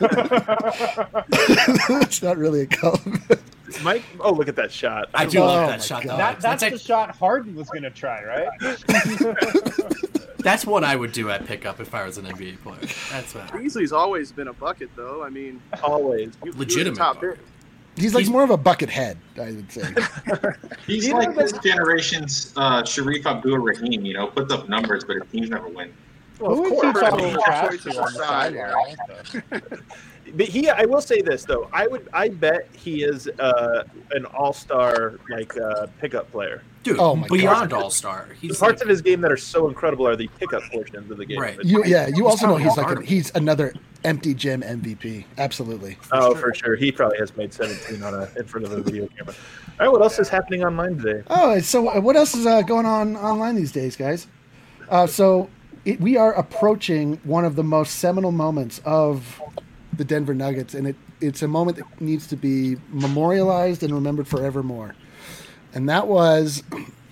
that's not really a compliment. Mike. Oh, look at that shot. I do Oh love my that shot. God. Though. that, that's that's, the shot Harden was going to try, right? that's what I would do at pickup if I was an N B A player. That's what. Beasley's always been a bucket, though. I mean, Always. he- he was a Legitimate top bucket. pick. He's like He's- more of a bucket head, I would say. He's You like know, this generation's uh, Sharif Abdul-Rahim, you know, puts up numbers, but his teams never win. Well, Who of would you course. talk I mean, trash choices to on the aside. sideline also? But he, I will say this though. I would, I bet he is uh, an all-star like uh, pickup player. Dude, Oh my beyond God. all star. The He's parts like, of his game that are so incredible are the pickup portions of the game. Right. But- You, yeah, you also know he's like a, Harden. he's another empty gym M V P. Absolutely. oh, for sure. He probably has made seventeen on a in front of a video camera. All right, what else is happening online today? Oh, so uh, what else is uh, going on online these days, guys? Uh, so it, we are approaching one of the most seminal moments of the Denver Nuggets, and it, it's a moment that needs to be memorialized and remembered forevermore. And that was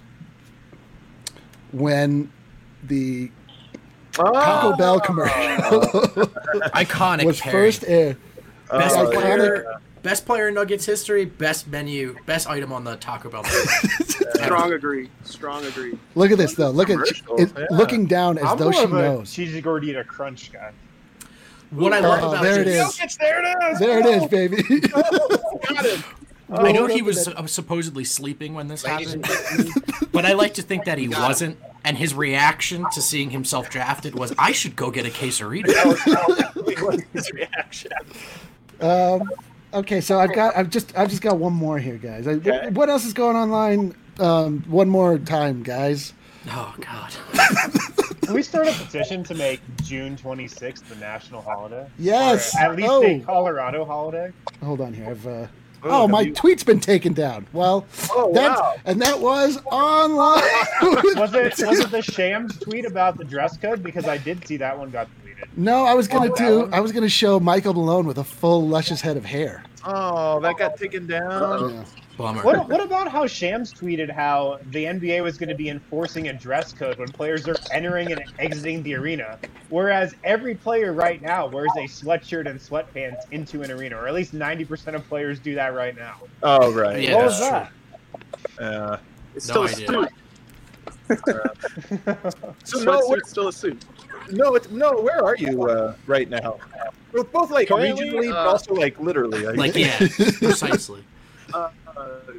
when the Taco Bell commercial iconic. was pairing. first aired. Best Oh, player, yeah. best player in Nuggets history. Best menu. Best item on the Taco Bell menu. Strong agree. Strong agree. Look at this, though. Look at Commercial, it, yeah. looking down as I'm though more she of a knows. cheesy gordita crunch guy. What I love Oh, about there it this, is. There it is. There it is, baby. Got him. I know Rolled he up was in uh, supposedly sleeping when this happened, but I like to think that he wasn't. And his reaction to seeing himself drafted was, "I should go get a quesarito." His reaction. Um, okay, so I've got, I've just, I've just got one more here, guys. I, Okay. What else is going online? Um, one more time, guys. Oh God. Can we start a petition to make June twenty-sixth the national holiday? Yes. Or at least Oh. a Colorado holiday? Hold on here. I've. Uh, Oh, oh, have my you- tweet's been taken down. Well, Oh, that's, wow. and that was online. Was it was it the Shams tweet about the dress code? Because I did see that one got deleted. No, I was gonna Oh, that do. one? I was gonna show Michael Malone with a full luscious head of hair. Oh, that got taken down. Yeah. Bummer. What, what about how Shams tweeted how the N B A was going to be enforcing a dress code when players are entering and exiting the arena, whereas every player right now wears a sweatshirt and sweatpants into an arena, or at least ninety percent of players do that right now. Oh, right. Yeah, what was that's that? Uh, It's No still idea. a suit. so no, Sweatsuit's what, still a suit. no, it's, no. Where are you uh, right now? We're both like Currently, regionally, but uh, also like literally. I Like guess. yeah, precisely. Uh, uh,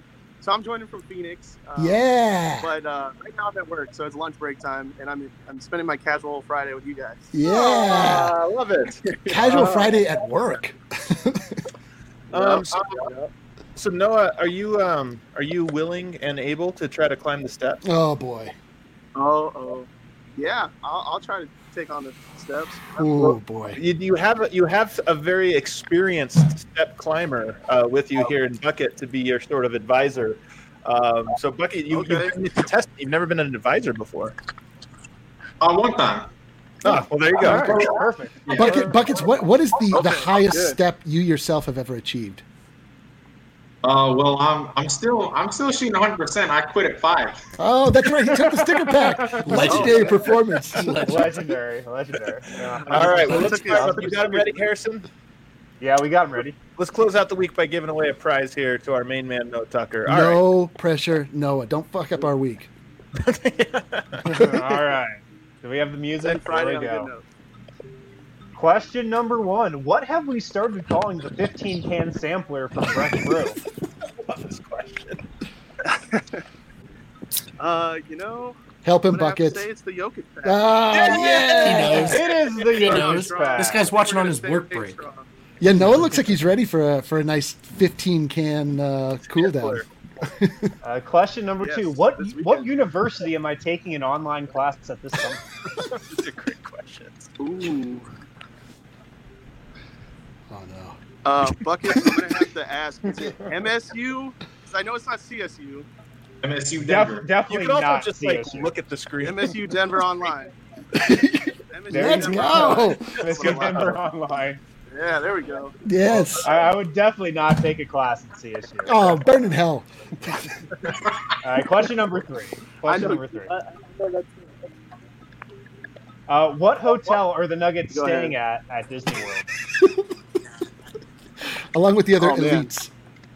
So I'm joining from Phoenix. Um, Yeah. But uh, right now I'm at work, so it's lunch break time, and I'm I'm spending my casual Friday with you guys. Yeah. I love it. Casual Uh, Friday at work. Um, so, so Noah, are you um are you willing and able to try to climb the steps? Oh boy. Oh, oh, yeah. I'll, I'll try to take on the steps. Oh boy. You, you have a, you have a very experienced step climber uh, with you here in Bucket to be your sort of advisor. Um, so Bucket, you, Okay. you've, you've tested. You've never been an advisor before. Uh, one time. Oh, well, there you go. All right, perfect. Yeah. Bucket, buckets. What what is the, the Okay, highest good. step you yourself have ever achieved? Uh, well, I'm I'm still I'm still shooting one hundred percent. I quit at five. Oh, that's right. He took the sticker pack. Legendary performance. Legendary, legendary. Yeah. All right, well, Let's let's take it. you got him ready, Harrison. Yeah, we got him ready. Let's close out the week by giving away a prize here to our main man, Noah Tucker. All right. No pressure, Noah. Don't fuck up our week. All right. Do we have the music? Then Friday There on we a good go. note. Question number one. What have we started calling the fifteen can sampler from Breck Brew? I love this question. Uh, you know, Help him, I'm gonna have to buckets. say it's the Jokic pack. Ah, yeah. He knows. It is the He Jokic knows. pack. This guy's watching on his Stay- work stay break. strong. Yeah, Noah looks like he's ready for a for a nice fifteen can uh, cool down. Uh, question number Yes, two. What this weekend. what university am I taking an online class at this summer? These are great questions. Ooh. Oh no. Uh, Bucket, I'm gonna have to ask. Is it M S U? 'Cause I know it's not C S U. M S U Def- Denver. You definitely can also not just C like S U. look at the screen. M S U Denver Online. M S U There Let's you Denver go. Online. Let's go Denver online. Yeah, there we go. Yes. I, I would definitely not take a class at C S U. Oh, burn in hell. All right, question number three. Question I know- number three. Uh, what hotel are the Nuggets Go staying at at Disney World? Along with the other Oh, man. elites.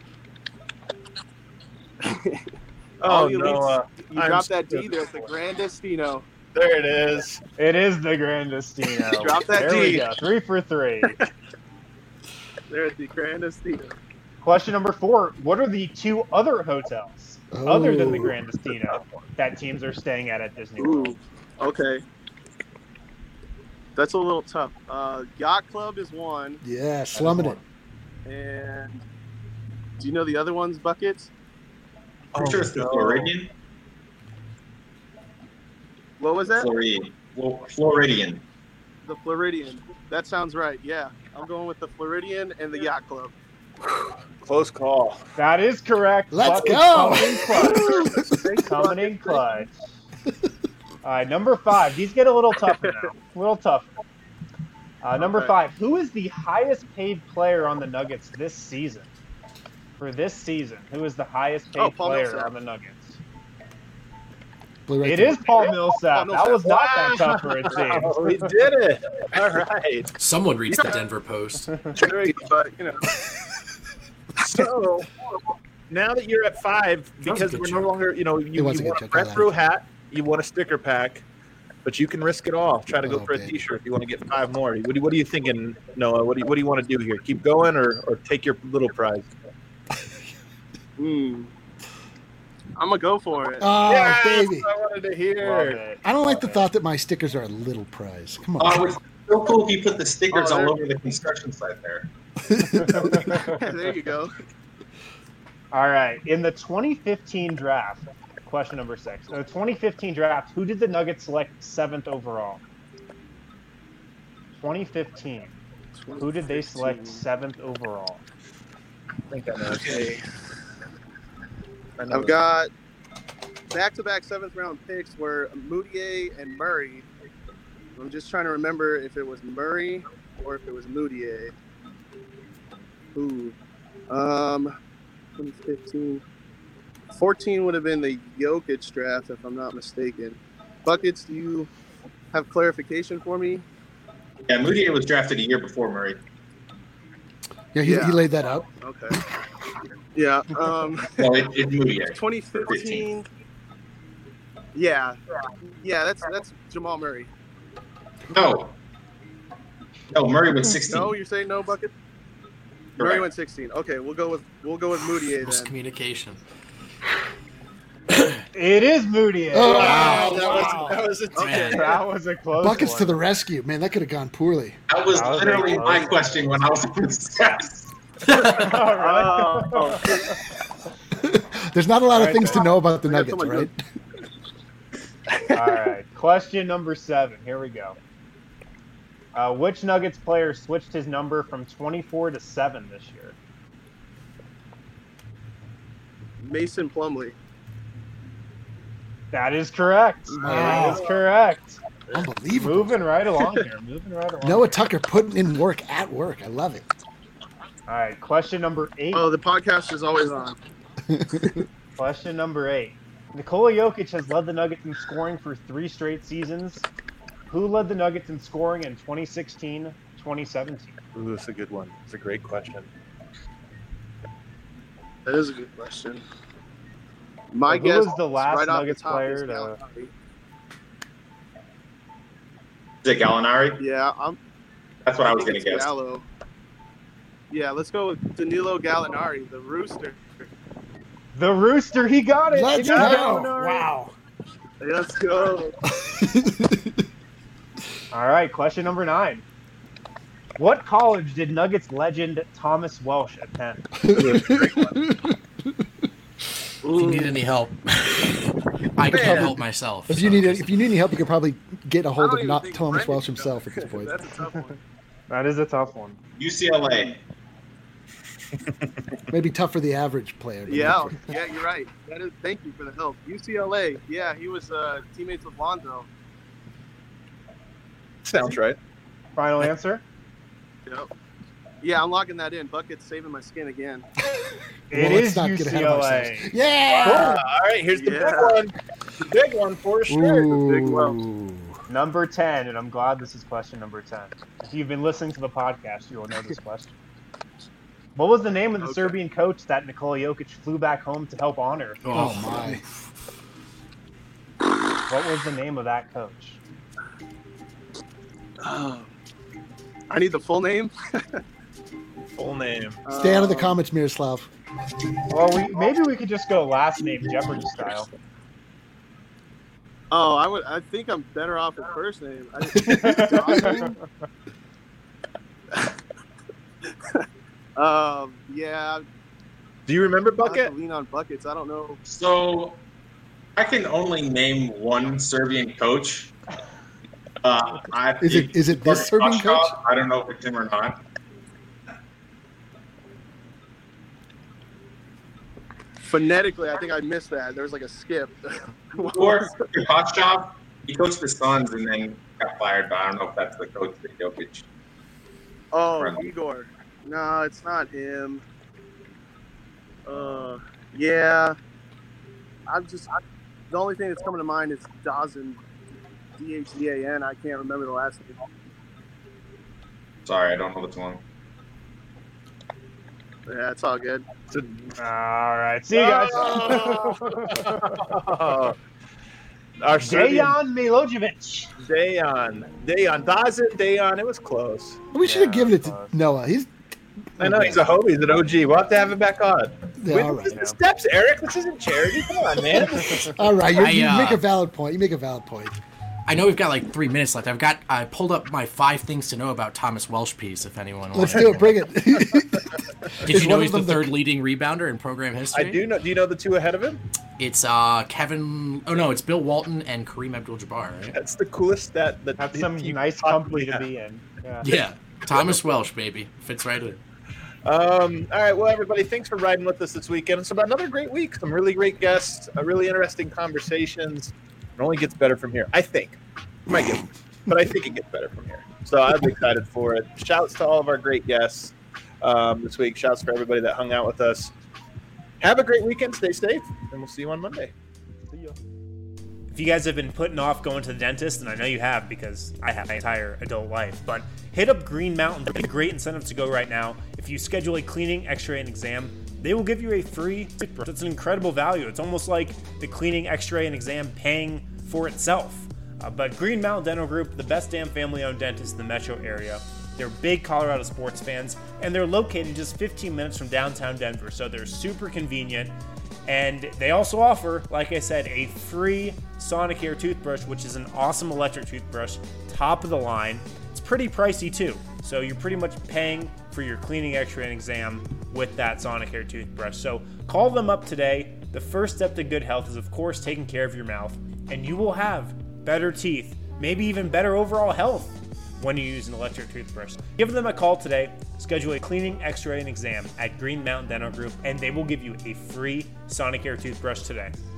Oh, All the elites, Noah. You I'm dropped that so D there. It's the Grandestino. There it is. It is the Grandestino. Drop that there we D. go. Three for three. There at the Grandestino. Question number four. What are the two other hotels other than the Oh. Grandestino that teams are staying at at Disney World? Ooh, okay. That's a little tough. Uh, Yacht Club is one, Yeah, slumming it. and do you know the other ones? Buckets. I'm sure it's the no. Floridian. What was that? Floridian. Flo- Floridian. The Floridian. That sounds right. Yeah, I'm going with the Floridian and the Yacht Club. Close call. That is correct. Let's Buckets go. Coming in clutch. Coming in clutch. All right, number five. These get a little tougher now. A little tougher. Uh, number Okay. five. Who is the highest paid player on the Nuggets this season? For this season, who is the highest paid Oh, Paul player Millsap. on the Nuggets? Blue right It there. is Paul Millsap. Paul That was not Wow. that tough for a team. Oh, we did it. All right. Someone reads the Denver Post. Tricky, but you know. So now that you're at five, That was a because good we're joke. no longer, you know, It you, was a you good want a joke, I Breck like Brew it. hat, you want a sticker pack, but you can risk it all. Try to go Oh, for a baby. T-shirt if you want to get five more. What do, you- what are you thinking, Noah? What do you, what do you want to do here? Keep going or, or take your little prize? Hmm. I'm gonna go for it. Oh, Yes, baby. I wanted to Love hear. it. I don't like the thought that my stickers are a little prize. Come Oh, on. it's so cool if you put the stickers Oh, all there- over the construction site there. There you go. All right. In the twenty fifteen draft, question number six. In the twenty fifteen draft, who did the Nuggets select seventh overall? twenty fifteen. Who did they select seventh overall? I think I know. Okay. I know. I've got back-to-back seventh round picks were Moutier and Murray. I'm just trying to remember if it was Murray or if it was Moutier. Ooh. Um, twenty fifteen. fourteen would have been the Jokic draft, if I'm not mistaken. Buckets, do you have clarification for me? Yeah, Moutier was drafted a year before Murray. Yeah, he, Yeah. he laid that out. Okay. Yeah. Um, No, it, it's Moutier. twenty fifteen. Yeah. Yeah, that's that's Jamal Murray. No. No, Murray was sixteen. No, you're saying no, Bucket? Correct. Murray went sixteen. Okay, we'll go with we'll go with Moutier then. Miscommunication. It is Moutier. Oh, Wow, that wow. was that was a Man. That was a close Buckets one. to the rescue, man. That could have gone poorly. That was That was literally very my close. question when I was in steps. All right. Oh, There's not a lot All of right, things to then. know about the I got Nuggets, someone right? All right. Question number seven. Here we go. Uh, which Nuggets player switched his number from twenty-four to seven this year? Mason Plumlee. That is correct. Wow. That is correct. Unbelievable. Moving right along here. Moving right along. Noah Tucker putting in work at work. I love it. All right. Question number eight. Oh, the podcast is always on. Question number eight. Nikola Jokic has led the Nuggets in scoring for three straight seasons. Who led the Nuggets in scoring in twenty sixteen, twenty seventeen? Ooh, that's a good one. It's a great question. That is a good question. My Who guess was the last right off the Nuggets top player is to- Gallinari. Is it Gallinari? Yeah, I'm. That's what I was think going to it's guess. Gallo. Yeah, let's go with Danilo Gallinari, the Rooster. The Rooster, he got it. Let's It is go. Gallinari. Wow. Let's go. All right, question number nine. What college did Nuggets legend Thomas Welsh attend? If you need any help, I can't Man. help myself. If you so need just- if you need any help, you could probably get a I hold don't of even not think Thomas Brendan Welsh can himself go. at this point. That's a tough one. That is a tough one. U C L A. Maybe tough for the average player. but Yeah, not for- yeah, you're right. That is. Thank you for the help. U C L A. Yeah, he was uh, teammates with Lonzo. Sounds right. Final answer? Yep. Yeah, I'm locking that in. Bucket's saving my skin again. It Well, let's is not get ahead of U C L A. ourselves. Yeah. All right, here's the Yeah. big one. The big one for sure. The big one. Ooh. Number ten, and I'm glad this is question number ten. If you've been listening to the podcast, you will know this question. What was the name of the Okay. Serbian coach that Nikola Jokic flew back home to help honor? Oh my. What was the name of that coach? Oh. I need the full name. Full name. Stay out of the Um, comments, Miroslav. Well, we maybe we could just go last name Jeopardy style. Oh, I would. I think I'm better off with first name. I, um, yeah. Do you remember I have Bucket? to lean on buckets. I don't know. So I can only name one Serbian coach. Uh, I, Is it- is it this Serbian Koshkov. coach? I don't know if it's him or not. Phonetically, I think I missed that. There was like a skip. Or Koshkov. He coached the Suns and then got fired, but I don't know if that's the coach that Jokic. Oh, Right. Igor. No, it's not him. Uh, yeah. I'm just. I, the only thing that's coming to mind is Dazan. D H Z A N. I can't remember the last name. Sorry, I don't know what's wrong. Yeah, it's all good. All right, see you guys. Oh. Our Serbian Dejan Milojevic. Dejan. Dejan. Dazin, Dejan. It was close. We should have Yeah, given it to close. Noah. He's I know he's a hobie. He's an O G. We'll have to have him back on. Yeah, Wait, all this is right. the steps, Eric. This isn't charity. Come on, man. all right. You're, I, you uh, make a valid point. You make a valid point. I know we've got like three minutes left. I've got I pulled up my five things to know about Thomas Welsh piece. If anyone Let's wanted. do it. Bring it. Did Is you know one he's of the them the- third leading rebounder in program I history? do know. Do you know the two ahead of him? It's uh Kevin. Oh no, it's Bill Walton and Kareem Abdul-Jabbar. Right? That's the coolest stat that That's the some team nice possibly company to have. be in. Yeah. Yeah, Thomas Welsh, baby, fits right in. Um, all right, well, everybody, thanks for riding with us this weekend. It's about another great week. Some really great guests, uh, really interesting conversations. It only gets better from here, I think. It might get, but I think it gets better from here. So I'm excited for it. Shouts to all of our great guests um, this week. Shouts for everybody that hung out with us. Have a great weekend. Stay safe, and we'll see you on Monday. See ya. If you guys have been putting off going to the dentist, and I know you have because I have my entire adult life, but hit up Green Mountain. It's a great incentive to go right now. If you schedule a cleaning, x-ray, and exam, they will give you a free toothbrush. It's an incredible value. It's almost like the cleaning, x-ray, and exam paying for itself. Uh, but Green Mountain Dental Group, the best damn family-owned dentist in the metro area. They're big Colorado sports fans, and they're located just fifteen minutes from downtown Denver, so they're super convenient. And they also offer, like I said, a free Sonicare toothbrush, which is an awesome electric toothbrush, top of the line. It's pretty pricey too, so you're pretty much paying for your cleaning, x-ray, and exam with that Sonicare toothbrush. So call them up today. The first step to good health is, of course, taking care of your mouth, and you will have better teeth, maybe even better overall health when you use an electric toothbrush. Give them a call today, schedule a cleaning, x-ray, and exam at Green Mountain Dental Group, and they will give you a free Sonicare toothbrush today.